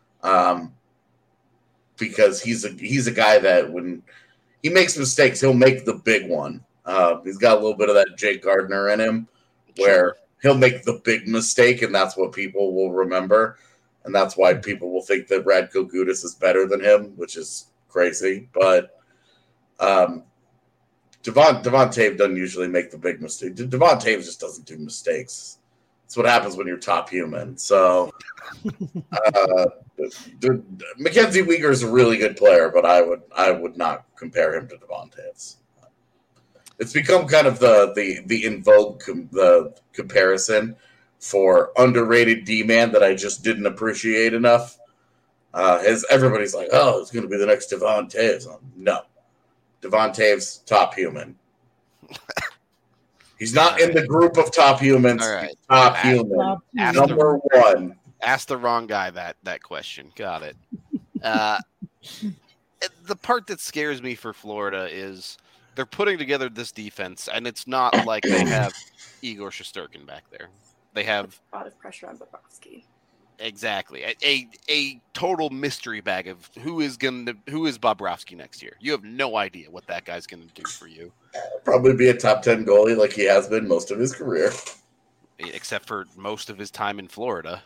[SPEAKER 2] Because he's a guy that when he makes mistakes, he'll make the big one. He's got a little bit of that Jake Gardiner in him where he'll make the big mistake, and that's what people will remember. And that's why people will think that Radko Gudas is better than him, which is crazy. But Devon Taves doesn't usually make the big mistake. Devon Taves just doesn't do mistakes. That's what happens when you're top human. So Mackenzie Weegar is a really good player, but I would not compare him to Devon Taves. It's become kind of the in vogue the comparison for underrated D-man that I just didn't appreciate enough. Everybody's like, oh, it's going to be the next Devon Toews. No. Devon Toews, top human. He's not in the group of top humans.
[SPEAKER 1] All right.
[SPEAKER 2] He's top human. Number one.
[SPEAKER 1] Asked the wrong guy that question. Got it. The part that scares me for Florida is they're putting together this defense, and it's not like they have Igor Shesterkin back there. They have
[SPEAKER 4] a lot of pressure on Bobrovsky.
[SPEAKER 1] Exactly. A total mystery bag of who is Bobrovsky next year. You have no idea what that guy's going to do for you.
[SPEAKER 2] Probably be a top 10 goalie like he has been most of his career.
[SPEAKER 1] Except for most of his time in Florida.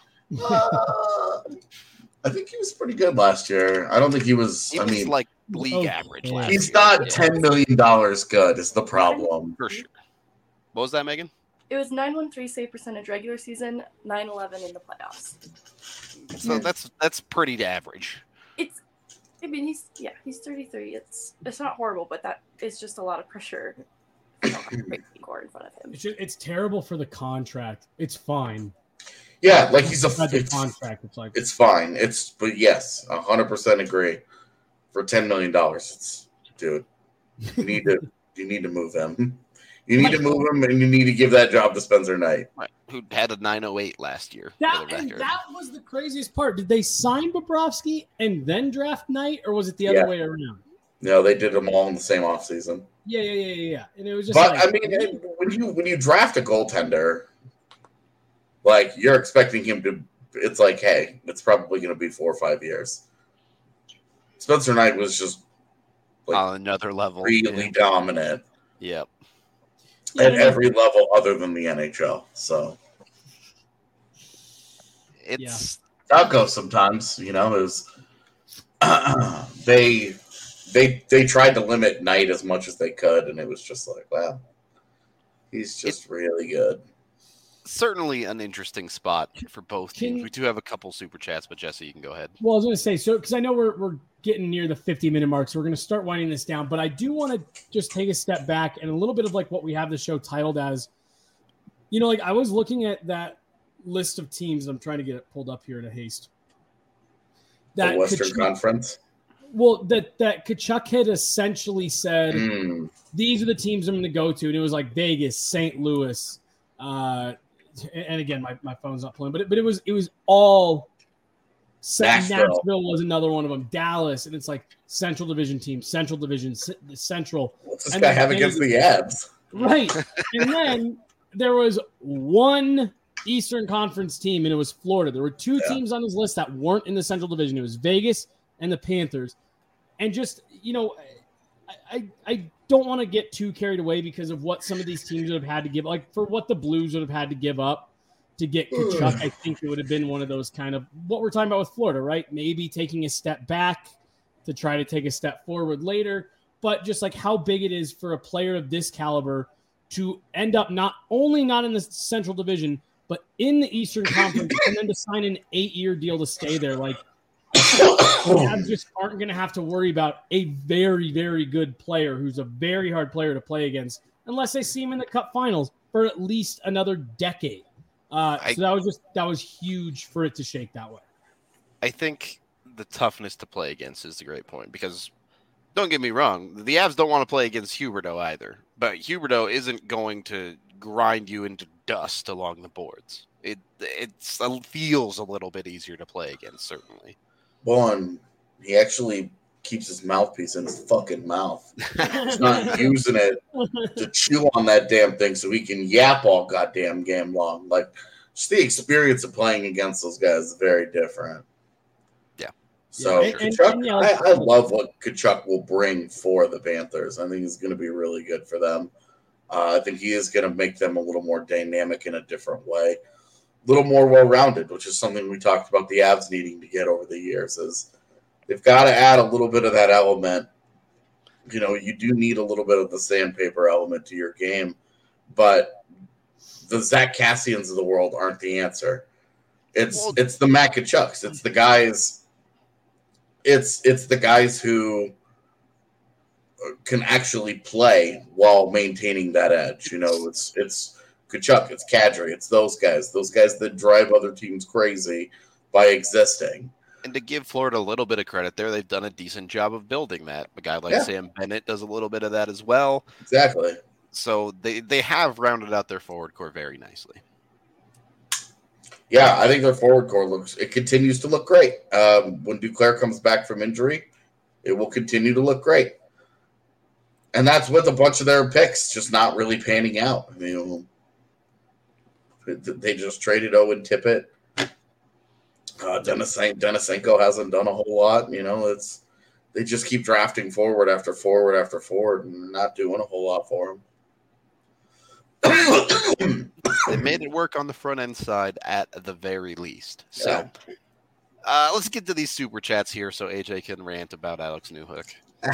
[SPEAKER 2] I think he was pretty good last year. I don't think he was.
[SPEAKER 1] He was like league average last year.
[SPEAKER 2] He's not $10 million good is the problem.
[SPEAKER 1] For sure. What was that, Megan?
[SPEAKER 4] It was 913 save percentage regular season, 911 in the playoffs.
[SPEAKER 1] So that's pretty average.
[SPEAKER 4] He's 33. It's not horrible, but that is just a lot of pressure. You don't have a great score in front of him.
[SPEAKER 3] It's terrible for the contract. It's fine.
[SPEAKER 2] Yeah, like he's
[SPEAKER 3] contract.
[SPEAKER 2] It's fine. But yes, 100% agree. For $10 million, dude. You need to move him. You need to move him, and you need to give that job to Spencer Knight,
[SPEAKER 1] who had a 908 last year.
[SPEAKER 3] That was the craziest part. Did they sign Bobrovsky and then draft Knight, or was it the other way around?
[SPEAKER 2] No, they did them all in the same offseason.
[SPEAKER 3] Yeah. And it was just.
[SPEAKER 2] But I mean, when you draft a goaltender, like you're expecting him to, it's like, hey, it's probably going to be 4 or 5 years. Spencer Knight was just
[SPEAKER 1] on another level,
[SPEAKER 2] really dominant.
[SPEAKER 1] Yep.
[SPEAKER 2] At every level other than the NHL. So
[SPEAKER 1] it's
[SPEAKER 2] I'll go sometimes, it was they tried to limit Knight as much as they could, and it was just like, wow, he's just really good.
[SPEAKER 1] Certainly an interesting spot for both teams. We do have a couple super chats, but Jesse, you can go ahead.
[SPEAKER 3] Well, I was going to say, so because I know we're getting near the 50-minute mark, so we're going to start winding this down. But I do want to just take a step back and a little bit of like what we have the show titled as. Like I was looking at that list of teams. I'm trying to get it pulled up here in a haste.
[SPEAKER 2] The Western Conference.
[SPEAKER 3] Well, that Tkachuk had essentially said, these are the teams I'm going to go to, and it was like Vegas, St. Louis. And again, my phone's not playing, but it was all. Nashville was another one of them. Dallas, and it's like Central Division team, Central Division, Central.
[SPEAKER 2] What's this guy have against the Avs?
[SPEAKER 3] Right, and then there was one Eastern Conference team, and it was Florida. There were two teams on his list that weren't in the Central Division. It was Vegas and the Panthers, and just I don't want to get too carried away because of what some of these teams would have had to give, like for what the Blues would have had to give up to get Tkachuk. I think it would have been one of those kind of what we're talking about with Florida, right? Maybe taking a step back to try to take a step forward later, but just like how big it is for a player of this caliber to end up not only not in the Central Division, but in the Eastern Conference, and then to sign an 8-year deal to stay there. Like, Avs just aren't going to have to worry about a very, very good player who's a very hard player to play against unless they see him in the Cup Finals for at least another decade. So that was huge for it to shake that way.
[SPEAKER 1] I think the toughness to play against is the great point because don't get me wrong, the Avs don't want to play against Huberdeau either, but Huberdeau isn't going to grind you into dust along the boards. It feels a little bit easier to play against, certainly.
[SPEAKER 2] One, he actually keeps his mouthpiece in his fucking mouth. He's not using it to chew on that damn thing so he can yap all goddamn game long. Like, just the experience of playing against those guys is very different.
[SPEAKER 1] Yeah.
[SPEAKER 2] So, Tkachuk, I love what Tkachuk will bring for the Panthers. I think he's going to be really good for them. I think he is going to make them a little more dynamic in a different way. A little more well-rounded, which is something we talked about the Avs needing to get over the years, is they've got to add a little bit of that element. You do need a little bit of the sandpaper element to your game, but the Zach Cassians of the world aren't the answer. It's the Matt Tkachuks. It's the guys. It's the guys who can actually play while maintaining that edge. You know, it's Tkachuk, it's Kadri, it's those guys that drive other teams crazy by existing.
[SPEAKER 1] And to give Florida a little bit of credit there, they've done a decent job of building that. A guy like Sam Bennett does a little bit of that as well.
[SPEAKER 2] Exactly.
[SPEAKER 1] So they have rounded out their forward core very nicely.
[SPEAKER 2] Yeah, I think their forward core continues to look great. When Duclair comes back from injury, it will continue to look great. And that's with a bunch of their picks just not really panning out. I mean, they just traded Owen Tippett. Denisenko hasn't done a whole lot. You know, they just keep drafting forward after forward after forward and not doing a whole lot for them.
[SPEAKER 1] They made it work on the front end side at the very least. So let's get to these super chats here so AJ can rant about Alex Newhook.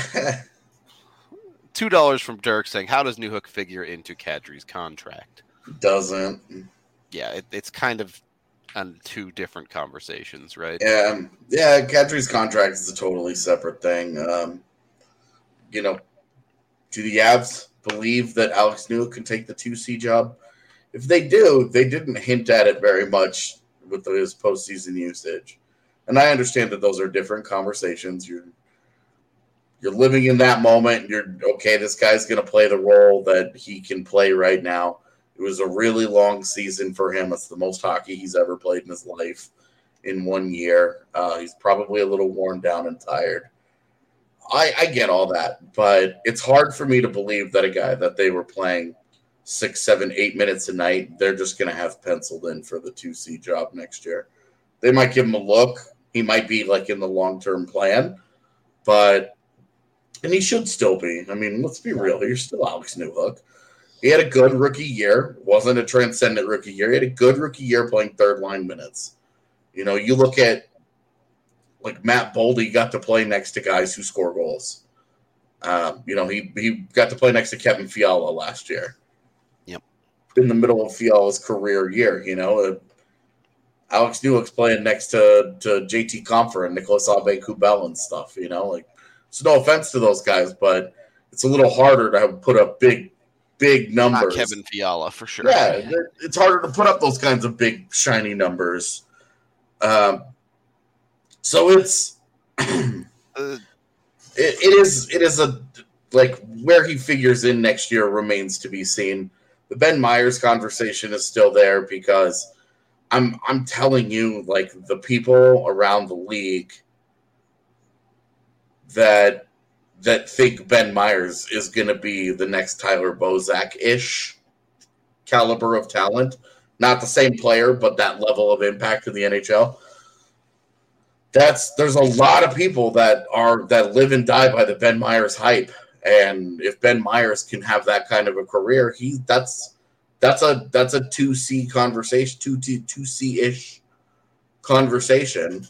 [SPEAKER 1] $2 from Dirk saying, how does Newhook figure into Kadri's contract?
[SPEAKER 2] Doesn't.
[SPEAKER 1] Yeah, it's kind of on two different conversations, right?
[SPEAKER 2] Yeah, Kadri's contract is a totally separate thing. You know, do the Avs believe that Alex Newhook can take the 2C job? If they do, they didn't hint at it very much with his postseason usage. And I understand that those are different conversations. You're living in that moment. You're okay. This guy's going to play the role that he can play right now. It was a really long season for him. It's the most hockey he's ever played in his life in 1 year. He's probably a little worn down and tired. I get all that, but it's hard for me to believe that a guy that they were playing 6, 7, 8 minutes a night, they're just going to have penciled in for the 2C job next year. They might give him a look. He might be like in the long-term plan, and he should still be. I mean, let's be real. You're still Alex Newhook. He had a good rookie year. Wasn't a transcendent rookie year. He had a good rookie year playing third-line minutes. You know, you look at, like, Matt Boldy got to play next to guys who score goals. You know, he got to play next to Kevin Fiala last year.
[SPEAKER 1] Yep.
[SPEAKER 2] In the middle of Fiala's career year, you know. Alex Newhook's playing next to JT Compher and Nicolas Aube-Kubel and stuff, you know. Like, it's no offense to those guys, but it's a little harder to put up big numbers.
[SPEAKER 1] Not Kevin Fiala, for sure.
[SPEAKER 2] Yeah, it's harder to put up those kinds of big, shiny numbers. So it's it is a, like, where he figures in next year remains to be seen. The Ben Myers conversation is still there because I'm telling you, like, the people around the league that think Ben Myers is going to be the next Tyler Bozak-ish caliber of talent. Not the same player, but that level of impact in the NHL. There's a lot of people that live and die by the Ben Myers hype. And if Ben Myers can have that kind of a career, that's a 2C conversation, 2C-ish conversation.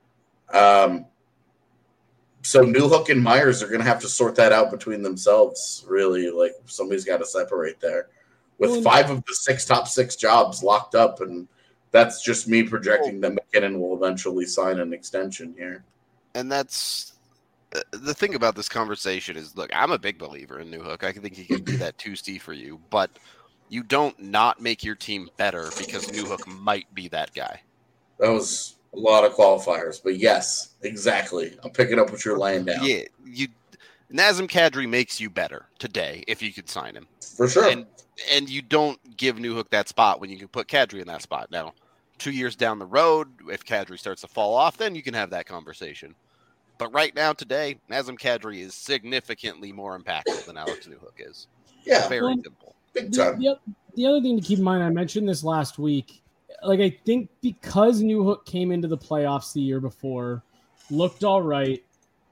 [SPEAKER 2] So Newhook and Myers are going to have to sort that out between themselves, really. Like, somebody's got to separate there. With 5 of the top 6 jobs locked up, and that's just me projecting that McKinnon will eventually sign an extension here.
[SPEAKER 1] And that's the thing about this conversation is, look, I'm a big believer in Newhook. I think he can be that 2C for you, but you don't not make your team better because Newhook might be that guy.
[SPEAKER 2] That was a lot of qualifiers, but yes, exactly. I'm picking up what you're laying down.
[SPEAKER 1] Yeah, Nazem Kadri makes you better today if you could sign him.
[SPEAKER 2] For sure.
[SPEAKER 1] And you don't give Newhook that spot when you can put Kadri in that spot. Now, 2 years down the road, if Kadri starts to fall off, then you can have that conversation. But right now, today, Nazem Kadri is significantly more impactful than Alex Newhook is.
[SPEAKER 2] Yeah.
[SPEAKER 1] Very simple.
[SPEAKER 2] Big time.
[SPEAKER 3] The other thing to keep in mind, I mentioned this last week, like, I think because Newhook came into the playoffs the year before, looked all right,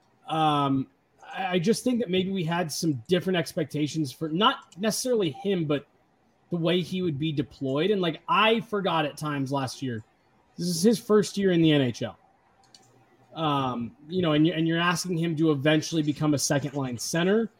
[SPEAKER 3] I just think that maybe we had some different expectations for not necessarily him, but the way he would be deployed. And, like, I forgot at times last year, this is his first year in the NHL. You know, and you're asking him to eventually become a second line center.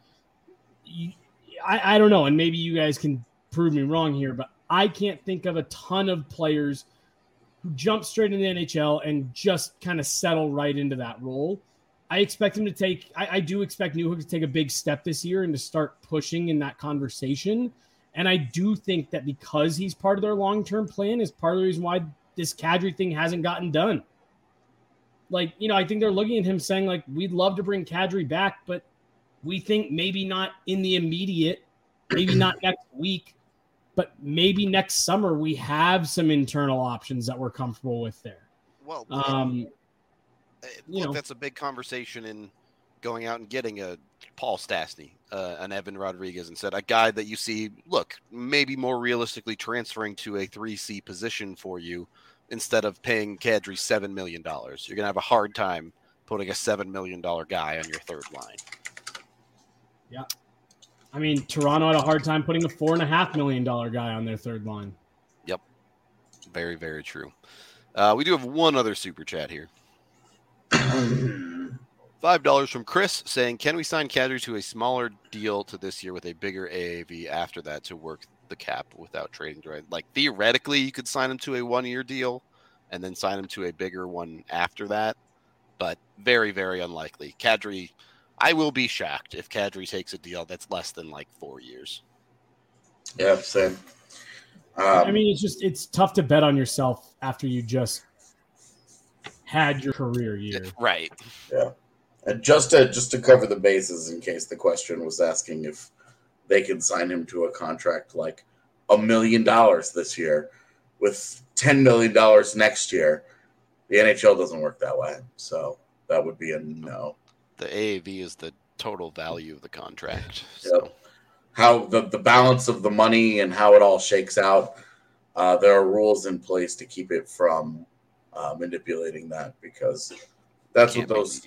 [SPEAKER 3] I don't know. And maybe you guys can prove me wrong here, but I can't think of a ton of players who jump straight in the NHL and just kind of settle right into that role. I expect him to take. I do expect Newhook to take a big step this year and to start pushing in that conversation. And I do think that because he's part of their long-term plan is part of the reason why this Kadri thing hasn't gotten done. Like, I think they're looking at him saying, like, we'd love to bring Kadri back, but we think maybe not in the immediate, maybe not next week, but maybe next summer we have some internal options that we're comfortable with there.
[SPEAKER 1] Well, that's a big conversation in going out and getting a Paul Stastny, an Evan Rodriguez, and said a guy that you see, look, maybe more realistically transferring to a 3C position for you instead of paying Kadri $7 million. You're going to have a hard time putting a $7 million guy on your third line.
[SPEAKER 3] Yeah. I mean, Toronto had a hard time putting a $4.5 million guy on their third line.
[SPEAKER 1] Yep. Very, very true. We do have one other super chat here. $5 from Chris saying, can we sign Kadri to a smaller deal to this year with a bigger AAV after that to work the cap without trading? Like, theoretically, you could sign him to a 1-year deal and then sign him to a bigger one after that, but very, very unlikely. Kadri, I will be shocked if Kadri takes a deal that's less than 4 years.
[SPEAKER 2] Yeah, same.
[SPEAKER 3] I mean, it's tough to bet on yourself after you just had your career year.
[SPEAKER 1] Right.
[SPEAKER 2] Yeah. And just to cover the bases, in case the question was asking if they could sign him to a contract like $1 million this year with $10 million next year, the NHL doesn't work that way. So that would be a no.
[SPEAKER 1] The AAV is the total value of the contract. So.
[SPEAKER 2] Yep. How the balance of the money and how it all shakes out, there are rules in place to keep it from manipulating that, because that's what those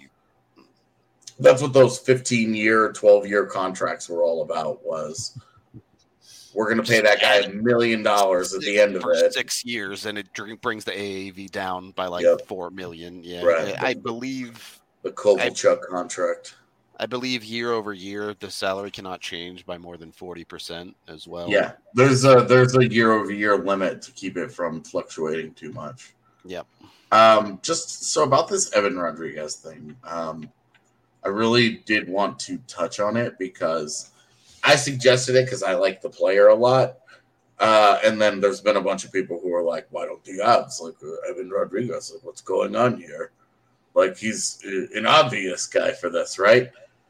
[SPEAKER 2] 15-year, 12-year contracts were all about. Was we're going to pay that guy $1 million at the end of it.
[SPEAKER 1] 6 years, and it brings the AAV down by $4 million. Yeah,
[SPEAKER 2] right.
[SPEAKER 1] I believe
[SPEAKER 2] the Kovalchuk contract.
[SPEAKER 1] I believe year over year the salary cannot change by more than 40% as well.
[SPEAKER 2] Yeah, there's a year over year limit to keep it from fluctuating too much.
[SPEAKER 1] Yep.
[SPEAKER 2] Just so about this Evan Rodriguez thing, I really did want to touch on it because I suggested it because I like the player a lot. And then there's been a bunch of people who are like, why don't the odds like Evan Rodriguez? Like, what's going on here? Like, he's an obvious guy for this, right?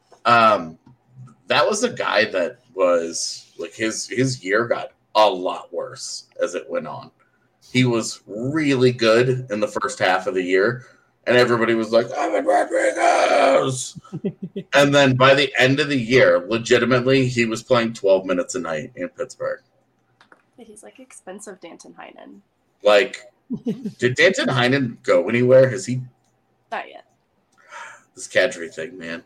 [SPEAKER 2] That was a guy that was like his year got a lot worse as it went on. He was really good in the first half of the year, and everybody was like, Evan Rodriguez. And then by the end of the year, legitimately, he was playing 12 minutes a night in Pittsburgh.
[SPEAKER 4] He's like expensive Danton Heinen.
[SPEAKER 2] Like, did Danton Heinen go anywhere? Has he?
[SPEAKER 4] Not yet.
[SPEAKER 2] This Kadri thing, man.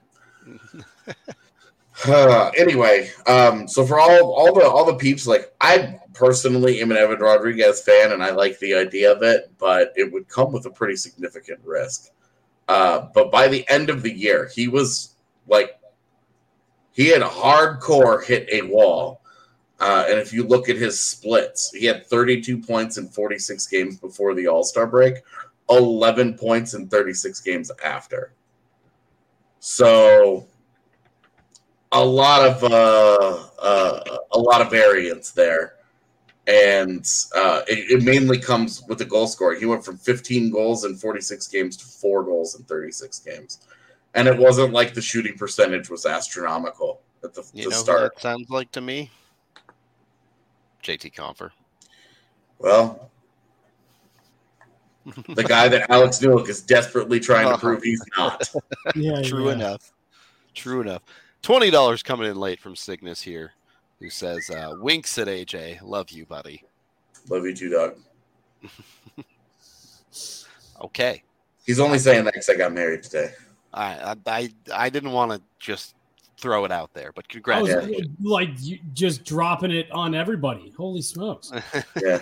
[SPEAKER 2] Anyway, so for all the peeps, like, I personally am an Evan Rodriguez fan, and I like the idea of it, but it would come with a pretty significant risk. But by the end of the year, he was like, he had hardcore hit a wall. And if you look at his splits, he had 32 points in 46 games before the All-Star break, 11 points in 36 games after. So a lot of variance there, and it mainly comes with the goal scoring. He went from 15 goals in 46 games to 4 goals in 36 games, and it wasn't like the shooting percentage was astronomical at the start.
[SPEAKER 1] Who that sounds like to me? JT Compher.
[SPEAKER 2] Well, the guy that Alex Newhook is desperately trying to prove he's not.
[SPEAKER 1] True enough. $20 coming in late from Cygnus here, who says, winks at AJ. Love you, buddy.
[SPEAKER 2] Love you too, dog.
[SPEAKER 1] Okay.
[SPEAKER 2] He's only saying that because I got married today.
[SPEAKER 1] I didn't want to just throw it out there, but congratulations.
[SPEAKER 3] Like you just dropping it on everybody. Holy smokes.
[SPEAKER 2] Yeah.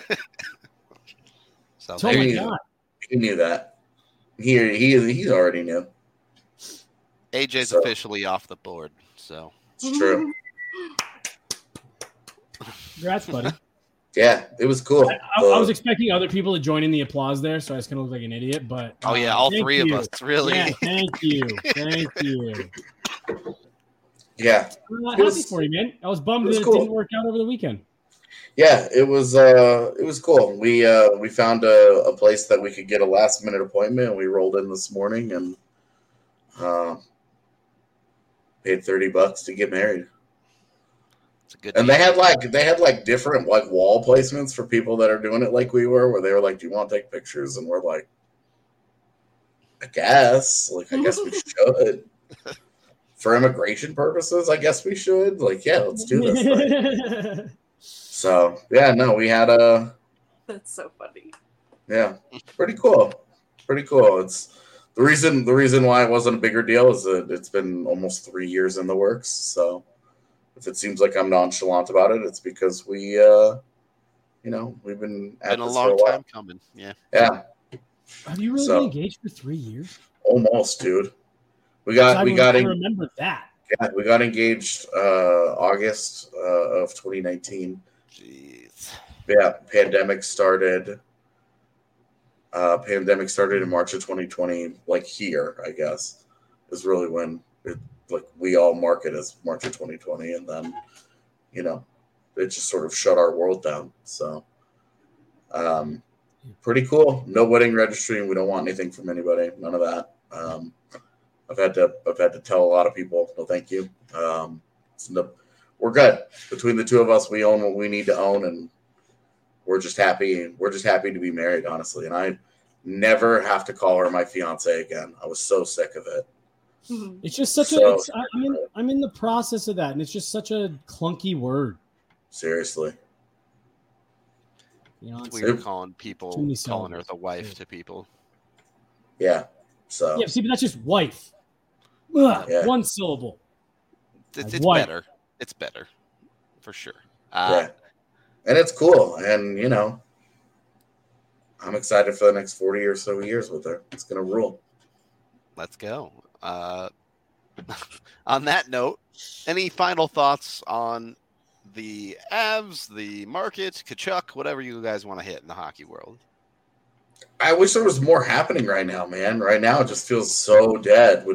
[SPEAKER 1] So
[SPEAKER 3] Oh my God.
[SPEAKER 2] He knew that. He already knew.
[SPEAKER 1] AJ's officially off the board, so
[SPEAKER 2] it's true.
[SPEAKER 3] Congrats, buddy.
[SPEAKER 2] Yeah, it was cool.
[SPEAKER 3] I was expecting other people to join in the applause there, so I was going to look like an idiot. But
[SPEAKER 1] all three of us, really.
[SPEAKER 3] Yeah, thank you.
[SPEAKER 2] Yeah,
[SPEAKER 3] I'm happy for you, man. I was bummed that it didn't work out over the weekend.
[SPEAKER 2] Yeah, it was cool. We found a place that we could get a last minute appointment, and we rolled in this morning and paid $30 to get married. And they had like different like wall placements for people that are doing it like we were, where they were like, "Do you want to take pictures?" And we're like, I guess we should. For immigration purposes, I guess we should. Like, yeah, let's do this. So, yeah, no, we had
[SPEAKER 4] That's so funny.
[SPEAKER 2] Yeah, pretty cool. It's the reason why it wasn't a bigger deal is that it's been almost 3 years in the works. So, if it seems like I'm nonchalant about it, it's because we, we've been at
[SPEAKER 1] a
[SPEAKER 2] this
[SPEAKER 1] long
[SPEAKER 2] for a while.
[SPEAKER 1] time coming. Yeah.
[SPEAKER 2] Yeah.
[SPEAKER 3] Have you really been engaged for 3 years?
[SPEAKER 2] Almost, dude.
[SPEAKER 3] I remember that.
[SPEAKER 2] Yeah, we got engaged August of 2019.
[SPEAKER 1] Jeez.
[SPEAKER 2] Yeah, pandemic started in March of 2020. Like here, I guess, is really when we all mark it as March of 2020, and then it just sort of shut our world down. So, pretty cool. No wedding registry, and we don't want anything from anybody. None of that. I've had to tell a lot of people, no, thank you. We're good. Between the two of us, we own what we need to own, and we're just happy. We're just happy to be married, honestly. And I never have to call her my fiance again. I was so sick of it.
[SPEAKER 3] It's just I'm in the process of that, and it's just such a clunky word.
[SPEAKER 2] Seriously.
[SPEAKER 1] It's weird calling her the wife to people.
[SPEAKER 2] Yeah. So
[SPEAKER 3] yeah, see, but that's just wife. Ugh, yeah. One syllable.
[SPEAKER 1] It's better. It's better, for sure.
[SPEAKER 2] Yeah, and it's cool, and I'm excited for the next 40 or so years with her. It's gonna rule.
[SPEAKER 1] Let's go. On that note, any final thoughts on the Avs, the market, Tkachuk, whatever you guys want to hit in the hockey world?
[SPEAKER 2] I wish there was more happening right now, man. Right now, it just feels so dead.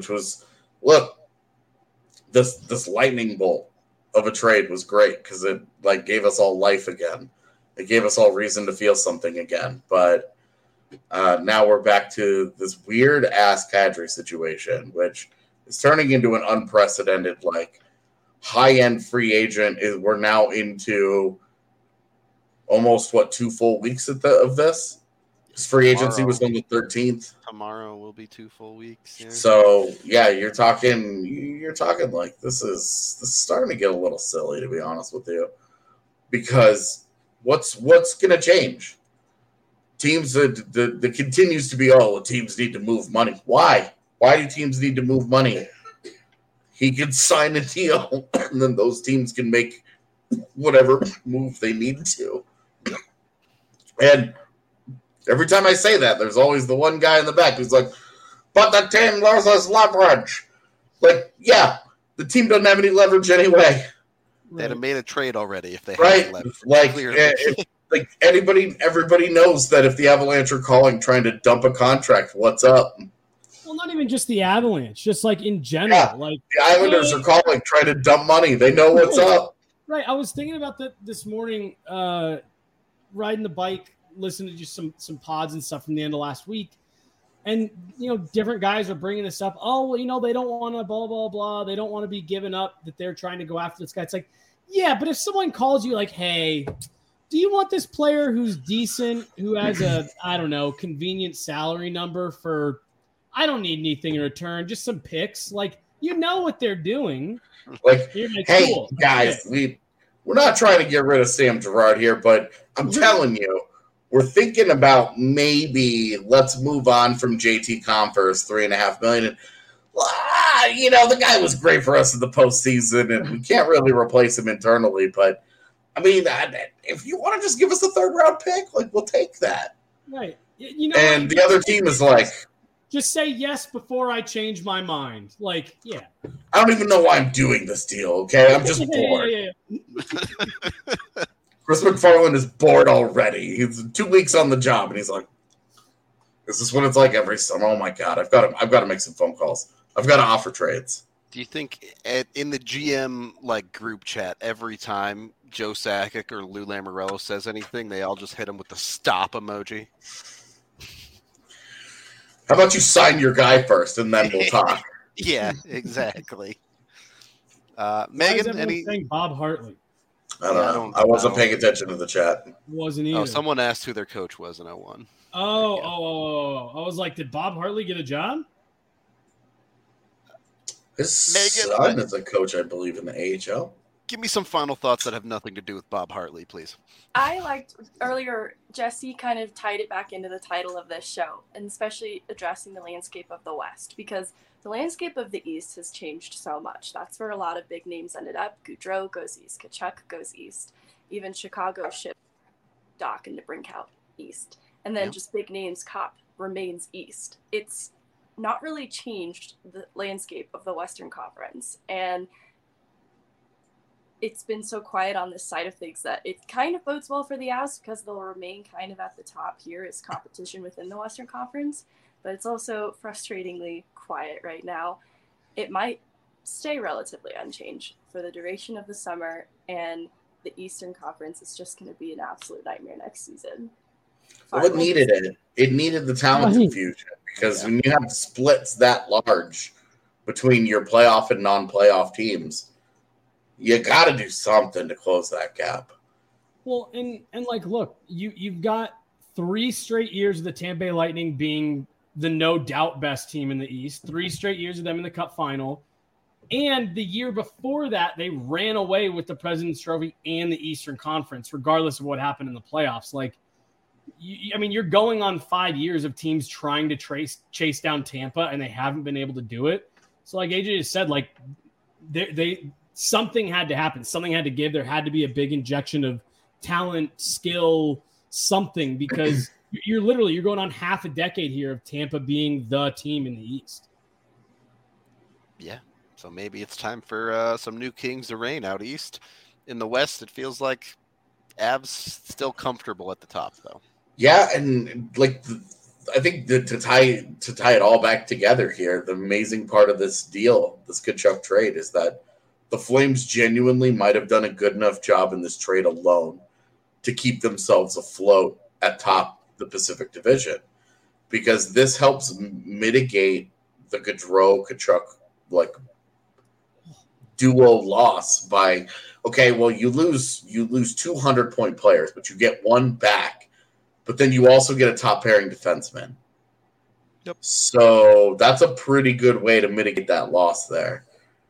[SPEAKER 2] This lightning bolt of a trade was great because it gave us all life again. It gave us all reason to feel something again. But now we're back to this weird ass Kadri situation, which is turning into an unprecedented high end free agent. We're now into almost 2 full weeks of this. Free agency was on the 13th.
[SPEAKER 1] Tomorrow will be 2 full weeks. Yeah.
[SPEAKER 2] So yeah, you're talking this is starting to get a little silly, to be honest with you, because what's going to change? Teams that continues to be teams need to move money. Why do teams need to move money? He can sign a deal, and then those teams can make whatever move they need to. And every time I say that, there's always the one guy in the back who's like, but the team loses leverage. Yeah, the team doesn't have any leverage anyway.
[SPEAKER 1] They'd have made a trade already if they had leverage.
[SPEAKER 2] Everybody knows that if the Avalanche are trying to dump a contract, what's up?
[SPEAKER 3] Well, not even just the Avalanche, just in general.
[SPEAKER 2] Yeah, the Islanders are trying to dump money. They know what's up.
[SPEAKER 3] Right. I was thinking about that this morning, riding the bike, listening to just some pods and stuff from the end of last week. And, different guys are bringing this up. Oh, well, they don't want to blah, blah, blah. They don't want to be given up that they're trying to go after this guy. It's yeah, but if someone calls you hey, do you want this player who's decent, who has a, I don't know, convenient salary number for, I don't need anything in return, just some picks. You know what they're doing.
[SPEAKER 2] Hey, cool. Guys, we're not trying to get rid of Sam Girard here, but I'm telling you, we're thinking about maybe let's move on from JT Compher's $3.5 million. The guy was great for us in the postseason, and we can't really replace him internally. But I mean, if you want to just give us a 3rd round pick, we'll take that.
[SPEAKER 3] Right.
[SPEAKER 2] And the other team is
[SPEAKER 3] just say yes before I change my mind. Yeah.
[SPEAKER 2] I don't even know why I'm doing this deal. Okay, I'm just bored.
[SPEAKER 3] Yeah.
[SPEAKER 2] Chris McFarland is bored already. He's 2 weeks on the job, and he's like, "This is what it's like every summer." Oh my god, I've got to make some phone calls. I've got to offer trades.
[SPEAKER 1] Do you think in the GM group chat every time Joe Sakic or Lou Lamoriello says anything, they all just hit him with the stop emoji?
[SPEAKER 2] How about you sign your guy first, and then we'll talk?
[SPEAKER 1] Yeah, exactly.
[SPEAKER 3] Megan, saying Bob Hartley?
[SPEAKER 2] I don't know. I wasn't paying attention to the chat.
[SPEAKER 3] Wasn't either.
[SPEAKER 1] Oh, someone asked who their coach was in 01.
[SPEAKER 3] Oh. I was like, did Bob Hartley get a job?
[SPEAKER 2] His son is a coach, I believe, in the AHL.
[SPEAKER 1] Give me some final thoughts that have nothing to do with Bob Hartley, please.
[SPEAKER 4] I liked earlier, Jesse kind of tied it back into the title of this show, and especially addressing the landscape of the West, because the landscape of the East has changed so much. That's where a lot of big names ended up. Gaudreau goes east. Tkachuk goes east. Even Chicago shipped Doc and DeBrincat east. And then just big names, Kopp remains east. It's not really changed the landscape of the Western Conference. And it's been so quiet on this side of things that it kind of bodes well for the Avs because they'll remain kind of at the top here as competition within the Western Conference. But it's also frustratingly quiet right now. It might stay relatively unchanged for the duration of the summer, and the Eastern Conference is just going to be an absolute nightmare next season.
[SPEAKER 2] Well, it needed it. It needed the talent infusion because when you have splits that large between your playoff and non-playoff teams, you got to do something to close that gap.
[SPEAKER 3] Well, and look, you've got 3 straight years of the Tampa Bay Lightning being the no doubt best team in the East, 3 straight years of them in the Cup final. And the year before that, they ran away with the President's Trophy and the Eastern Conference, regardless of what happened in the playoffs. You're going on 5 years of teams trying to chase down Tampa, and they haven't been able to do it. So like AJ just said, they something had to happen. Something had to give. There had to be a big injection of talent, skill, something, because you're going on half a decade here of Tampa being the team in the East.
[SPEAKER 1] Yeah. So maybe it's time for some new kings to reign out East. In the West, it feels like Avs still comfortable at the top, though.
[SPEAKER 2] Yeah, and I think to tie it all back together here, the amazing part of this deal, this Tkachuk trade, is that the Flames genuinely might have done a good enough job in this trade alone to keep themselves afloat at top the Pacific Division, because this helps mitigate the Gaudreau-Tkachuk duo loss by, okay, well, you lose 200-point players, but you get one back, but then you also get a top pairing defenseman.
[SPEAKER 1] Yep.
[SPEAKER 2] So that's a pretty good way to mitigate that loss there.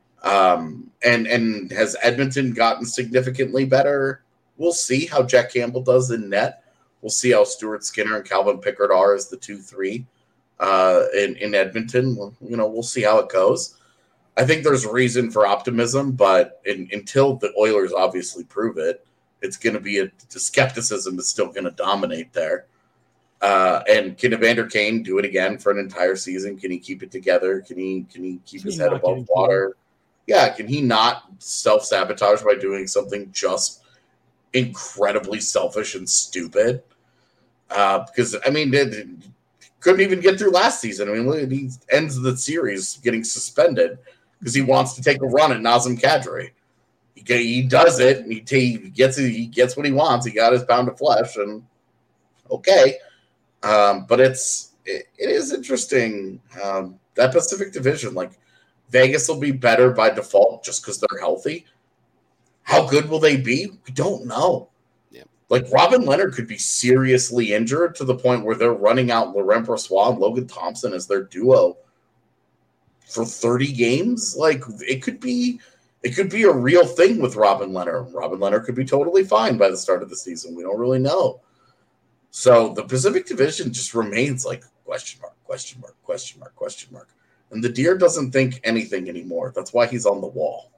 [SPEAKER 2] And has Edmonton gotten significantly better? We'll see how Jack Campbell does in net. We'll see how Stuart Skinner and Calvin Pickard are as the 2-3 in Edmonton. We'll see how it goes. I think there's reason for optimism, but until the Oilers obviously prove it, it's going to be the skepticism is still going to dominate there. And can Evander Kane do it again for an entire season? Can he keep it together? Can he keep his head above water? Yeah, can he not self-sabotage by doing something just incredibly selfish and stupid? Because, couldn't even get through last season. He ends the series getting suspended because he wants to take a run at Nazem Kadri. He does it, and he gets what he wants. He got his pound of flesh, and okay. But it is interesting. That Pacific Division, Vegas will be better by default just because they're healthy. How good will they be? We don't know.
[SPEAKER 1] Yeah.
[SPEAKER 2] Robin Leonard could be seriously injured to the point where they're running out Laurent Brossoit and Logan Thompson as their duo for 30 games. It could be a real thing with Robin Leonard. Robin Leonard could be totally fine by the start of the season. We don't really know. So the Pacific Division just remains question mark, question mark, question mark, question mark. And the Deer doesn't think anything anymore. That's why he's on the wall.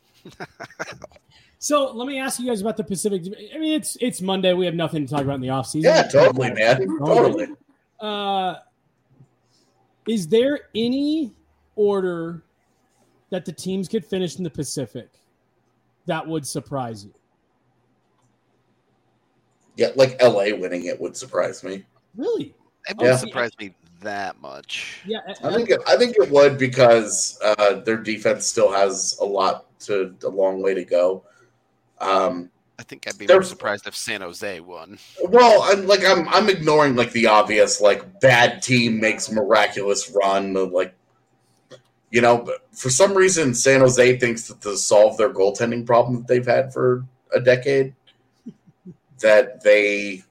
[SPEAKER 3] So let me ask you guys about the Pacific. It's Monday. We have nothing to talk about in the offseason.
[SPEAKER 2] Yeah, totally, man. Totally.
[SPEAKER 3] Is there any order that the teams could finish in the Pacific that would surprise you?
[SPEAKER 2] Yeah, like LA winning it would surprise me.
[SPEAKER 3] Really?
[SPEAKER 1] It wouldn't surprise me that much.
[SPEAKER 3] Yeah,
[SPEAKER 2] I think it would because their defense still has a long way to go.
[SPEAKER 1] I think I'd be more surprised if San Jose won.
[SPEAKER 2] Well, I'm ignoring like the obvious like bad team makes miraculous run, like but for some reason San Jose thinks that to solve their goaltending problem that they've had for a decade, that they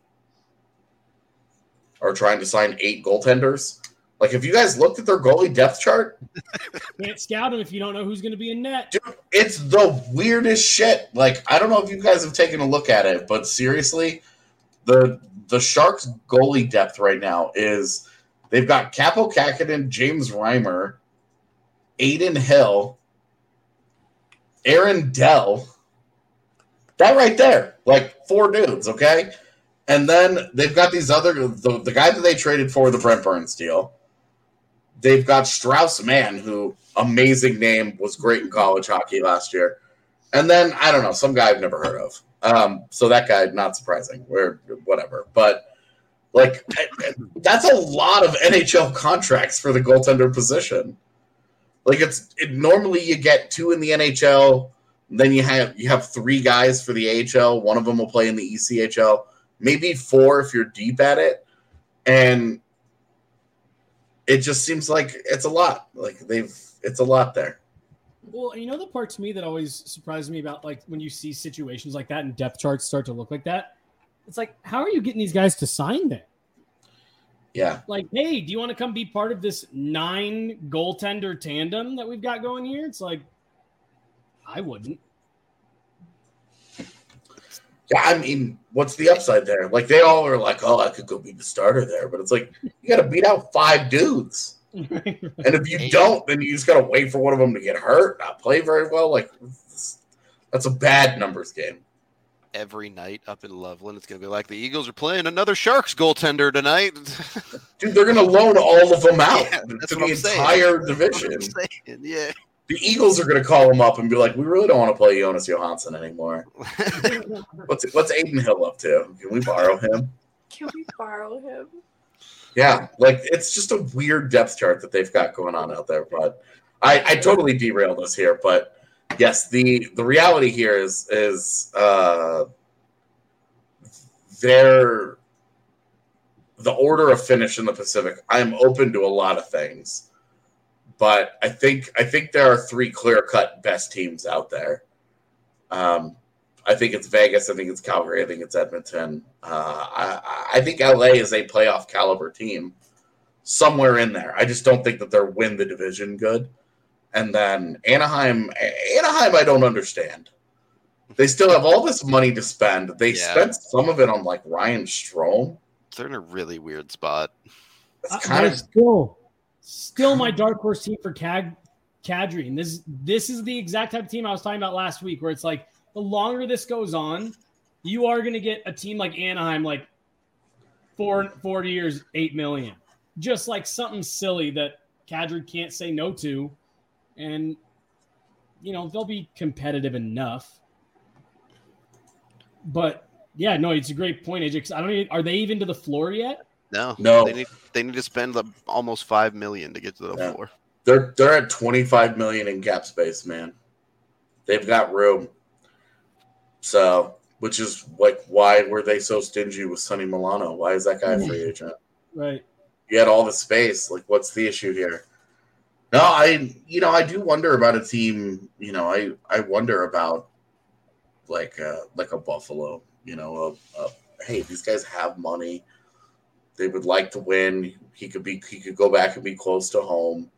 [SPEAKER 2] are trying to sign 8 goaltenders. Like, have you guys looked at their goalie depth chart?
[SPEAKER 3] Can't scout them if you don't know who's going to be in net.
[SPEAKER 2] Dude, it's the weirdest shit. Like, I don't know if you guys have taken a look at it, but seriously, the Sharks goalie depth right now is they've got Kaapo Kähkönen, James Reimer, Aiden Hill, Aaron Dell. That right there, like 4 dudes, okay? And then they've got these other the guy that they traded for the Brent Burns deal. They've got Strauss Mann, who, amazing name, was great in college hockey last year. And then, I don't know, some guy I've never heard of. So that guy, not surprising, or whatever. But, like, that's a lot of NHL contracts for the goaltender position. Like, normally you get 2 in the NHL, then you have 3 guys for the AHL. One of them will play in the ECHL. Maybe 4 if you're deep at it. And it just seems like it's a lot. Like it's a lot there.
[SPEAKER 3] Well, the part to me that always surprises me about like when you see situations like that and depth charts start to look like that, it's like, how are you getting these guys to sign there?
[SPEAKER 2] Yeah.
[SPEAKER 3] Like, hey, do you want to come be part of this 9 goaltender tandem that we've got going here? It's like, I wouldn't.
[SPEAKER 2] Yeah, I mean, what's the upside there? Like, they all are like, oh, I could go be the starter there. But it's like, you got to beat out 5 dudes. And if you don't, then you just got to wait for one of them to get hurt, not play very well. Like, that's a bad numbers game.
[SPEAKER 1] Every night up in Loveland, it's going to be like the Eagles are playing another Sharks goaltender tonight.
[SPEAKER 2] Dude, they're going to loan all of them out to the entire division.
[SPEAKER 1] Yeah.
[SPEAKER 2] The Eagles are going to call him up and be like, we really don't want to play Jonas Johansson anymore. What's Aiden Hill up to? Can we borrow him? Yeah, like it's just a weird depth chart that they've got going on out there. But I totally derailed us here. But yes, the reality here is the order of finish in the Pacific. I'm open to a lot of things. But I think there are 3 clear-cut best teams out there. I think it's Vegas. I think it's Calgary. I think it's Edmonton. I think LA is a playoff caliber team somewhere in there. I just don't think that they're win the division good. And then Anaheim, I don't understand. They still have all this money to spend. They spent some of it on like Ryan Strome.
[SPEAKER 1] They're in a really weird spot.
[SPEAKER 2] It's kind of
[SPEAKER 3] Still my dark horse team for Kadri. And this is the exact type of team I was talking about last week, where it's like the longer this goes on, you are going to get a team like Anaheim, like 4 years, $8 million. Just like something silly that Kadri can't say no to. And, they'll be competitive enough. But, yeah, no, it's a great point, AJ, because are they even to the floor yet?
[SPEAKER 1] No. They need to spend almost $5 million to get to the floor.
[SPEAKER 2] They're at $25 million in cap space, man. They've got room. So, which is like, why were they so stingy with Sonny Milano? Why is that guy a free agent?
[SPEAKER 3] Right.
[SPEAKER 2] You had all the space. Like, what's the issue here? No, I do wonder about a team. I wonder about like a Buffalo. Hey, these guys have money. They would like to win. He could go back and be close to home.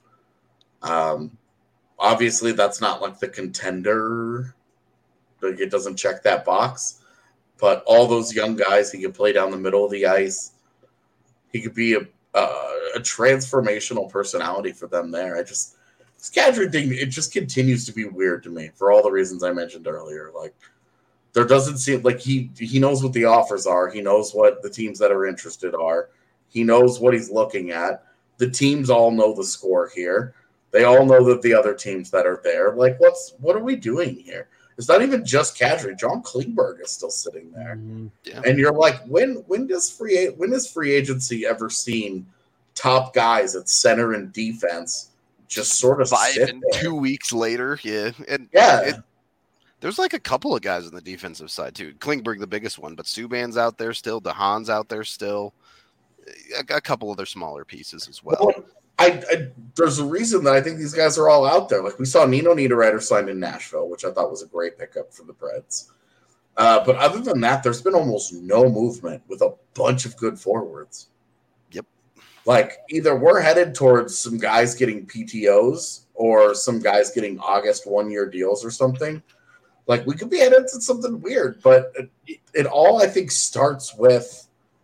[SPEAKER 2] Obviously, that's not like the contender. Like, it doesn't check that box. But all those young guys, he could play down the middle of the ice. He could be a transformational personality for them there. This Kadri thing, it just continues to be weird to me for all the reasons I mentioned earlier. Like, there doesn't seem like he knows what the offers are. He knows what the teams that are interested are. He knows what he's looking at. The teams all know the score here. They all know that the other teams that are there. Like, what are we doing here? It's not even just Kadri. John Klingberg is still sitting there.
[SPEAKER 3] Mm-hmm.
[SPEAKER 1] Yeah.
[SPEAKER 2] And you're like, when has free agency ever seen top guys at center and defense just sort of
[SPEAKER 1] 5
[SPEAKER 2] sit
[SPEAKER 1] and
[SPEAKER 2] there?
[SPEAKER 1] 2 weeks later? Yeah. And there's like a couple of guys on the defensive side, too. Klingberg, the biggest one, but Subban's out there still. DeHaan's out there still. A couple other smaller pieces as well.
[SPEAKER 2] There's a reason that I think these guys are all out there. Like we saw Nino Niederreiter signed in Nashville, which I thought was a great pickup for the Preds. But other than that, there's been almost no movement with a bunch of good forwards.
[SPEAKER 1] Yep.
[SPEAKER 2] Like either we're headed towards some guys getting PTOs or some guys getting August 1-year deals or something. Like we could be headed to something weird, but it all I think starts with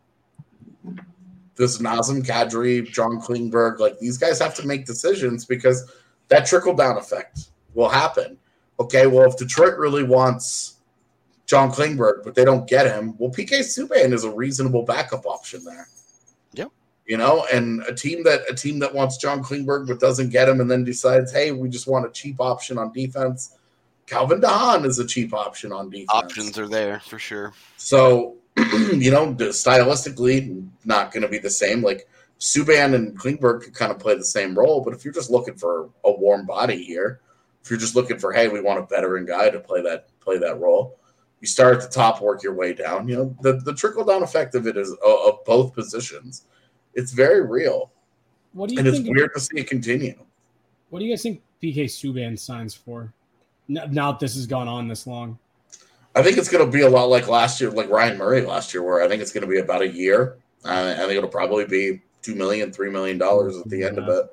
[SPEAKER 2] this Nazem Kadri, John Klingberg. Like these guys have to make decisions because that trickle-down effect will happen. Okay, well, if Detroit really wants John Klingberg, but they don't get him, well, PK Subban is a reasonable backup option there.
[SPEAKER 1] Yep.
[SPEAKER 2] You know, and a team that wants John Klingberg but doesn't get him and then decides, hey, we just want a cheap option on defense. Calvin DeHaan is a cheap option on defense.
[SPEAKER 1] Options are there for sure.
[SPEAKER 2] So, you know, stylistically, not going to be the same. Like Subban and Klingberg could kind of play the same role, but if you're just looking for a warm body here, if you're just looking for, hey, we want a veteran guy to play that role, you start at the top, work your way down. You know, the trickle down effect of it is of both positions. It's very real.
[SPEAKER 3] What do you
[SPEAKER 2] and
[SPEAKER 3] think?
[SPEAKER 2] It's weird to see it continue.
[SPEAKER 3] What do you guys think PK Subban signs for? Now that this has gone on this long.
[SPEAKER 2] I think it's going to be a lot like last year, like Ryan Murray last year, where I think it's going to be about a year. I think it'll probably be $2 million, $3 million at the end of it.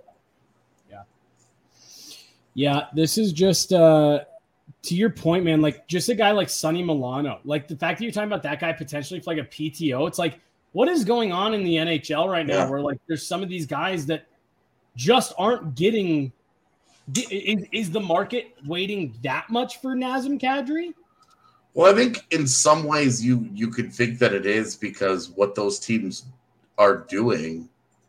[SPEAKER 3] Yeah, this is just to your point, man. Like just a guy like Sonny Milano, like the fact that you're talking about that guy potentially for like a PTO. It's like, what is going on in the NHL right now? Where like there's some of these guys that just aren't getting. Is the market waiting that much for Nazem Kadri?
[SPEAKER 2] Well, I think in some ways you could think that it is because what those teams are doing.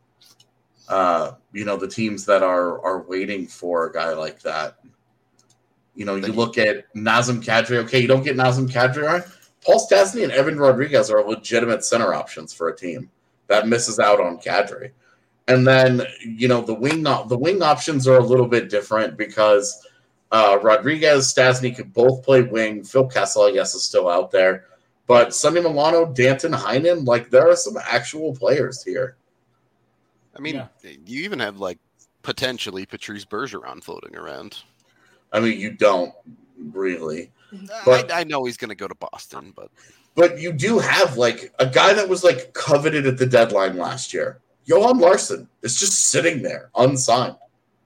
[SPEAKER 2] You know, the teams that are waiting for a guy like that. You know, you look at Nazem Kadri. Okay, you don't get Nazem Kadri, right? Paul Stastny and Evan Rodriguez are legitimate center options for a team that misses out on Kadri. And then, you know, the wing options are a little bit different because Rodriguez, Stastny could both play wing. Phil Kessel, I guess, is still out there. But Sonny Milano, Danton Heinen, like there are some actual players here.
[SPEAKER 1] I mean, you even have like potentially Patrice Bergeron floating around.
[SPEAKER 2] I mean, you don't really. But
[SPEAKER 1] I know he's going to go to Boston,
[SPEAKER 2] but you do have like a guy that was like coveted at the deadline last year. Johan Larsson is just sitting there unsigned.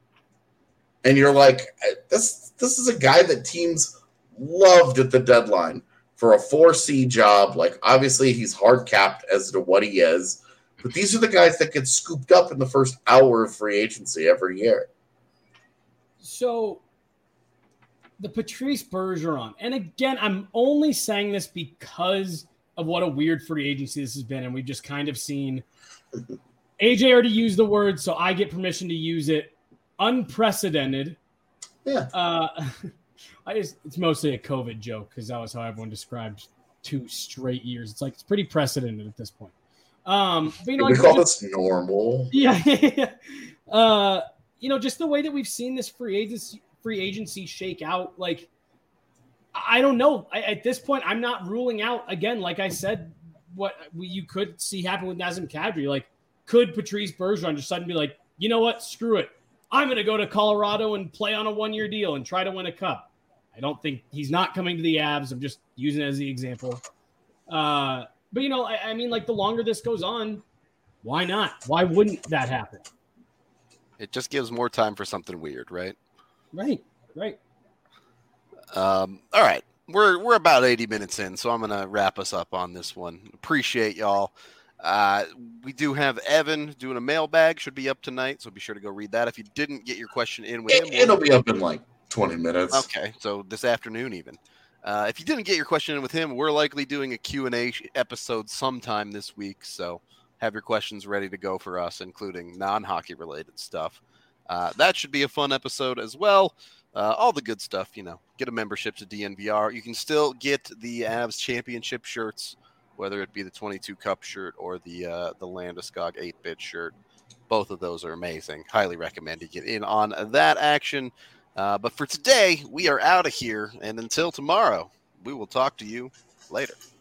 [SPEAKER 2] And you're like, this is a guy that teams loved at the deadline for a 4C job. Like, obviously, he's hard capped as to what he is. But these are the guys that get scooped up in the first hour of free agency every year.
[SPEAKER 3] So, the Patrice Bergeron, and again, I'm only saying this because of what a weird free agency this has been, and we've just kind of seen AJ already used the word, so I get permission to use it. Unprecedented.
[SPEAKER 2] Yeah.
[SPEAKER 3] It's mostly a COVID joke because that was how everyone described 2 straight years. It's like it's pretty precedented at this point. But, you know,
[SPEAKER 2] we call this normal.
[SPEAKER 3] Yeah. You know, just the way that we've seen this free agency shake out. Like, I don't know. At this point, I'm not ruling out again. Like I said, what you could see happen with Nazem Kadri. Like, could Patrice Bergeron just suddenly be like, you know what? Screw it. I'm going to go to Colorado and play on a 1-year deal and try to win a cup. I don't think he's not coming to the Avs. I'm just using it as the example. But, you know, I mean, like the longer this goes on, why not? Why wouldn't that happen?
[SPEAKER 1] it just gives more time for something weird, right?
[SPEAKER 3] Right.
[SPEAKER 1] All right. We're about 80 minutes in, so I'm going to wrap us up on this one. Appreciate y'all. We do have Evan doing a mailbag. Should be up tonight, so be sure to go read that. If you didn't get your question in with him,
[SPEAKER 2] it'll be up in like 20 minutes.
[SPEAKER 1] Okay, so this afternoon even. If you didn't get your question in with him, we're likely doing a Q&A episode sometime this week, so have your questions ready to go for us, including non-hockey related stuff. That should be a fun episode as well. all the good stuff, get a membership to DNVR. You can still get the Avs championship shirts, whether it be the 22 Cup shirt or the Landeskog 8-bit shirt. Both of those are amazing. Highly recommend you get in on that action. But for today, we are out of here. And until tomorrow, we will talk to you later.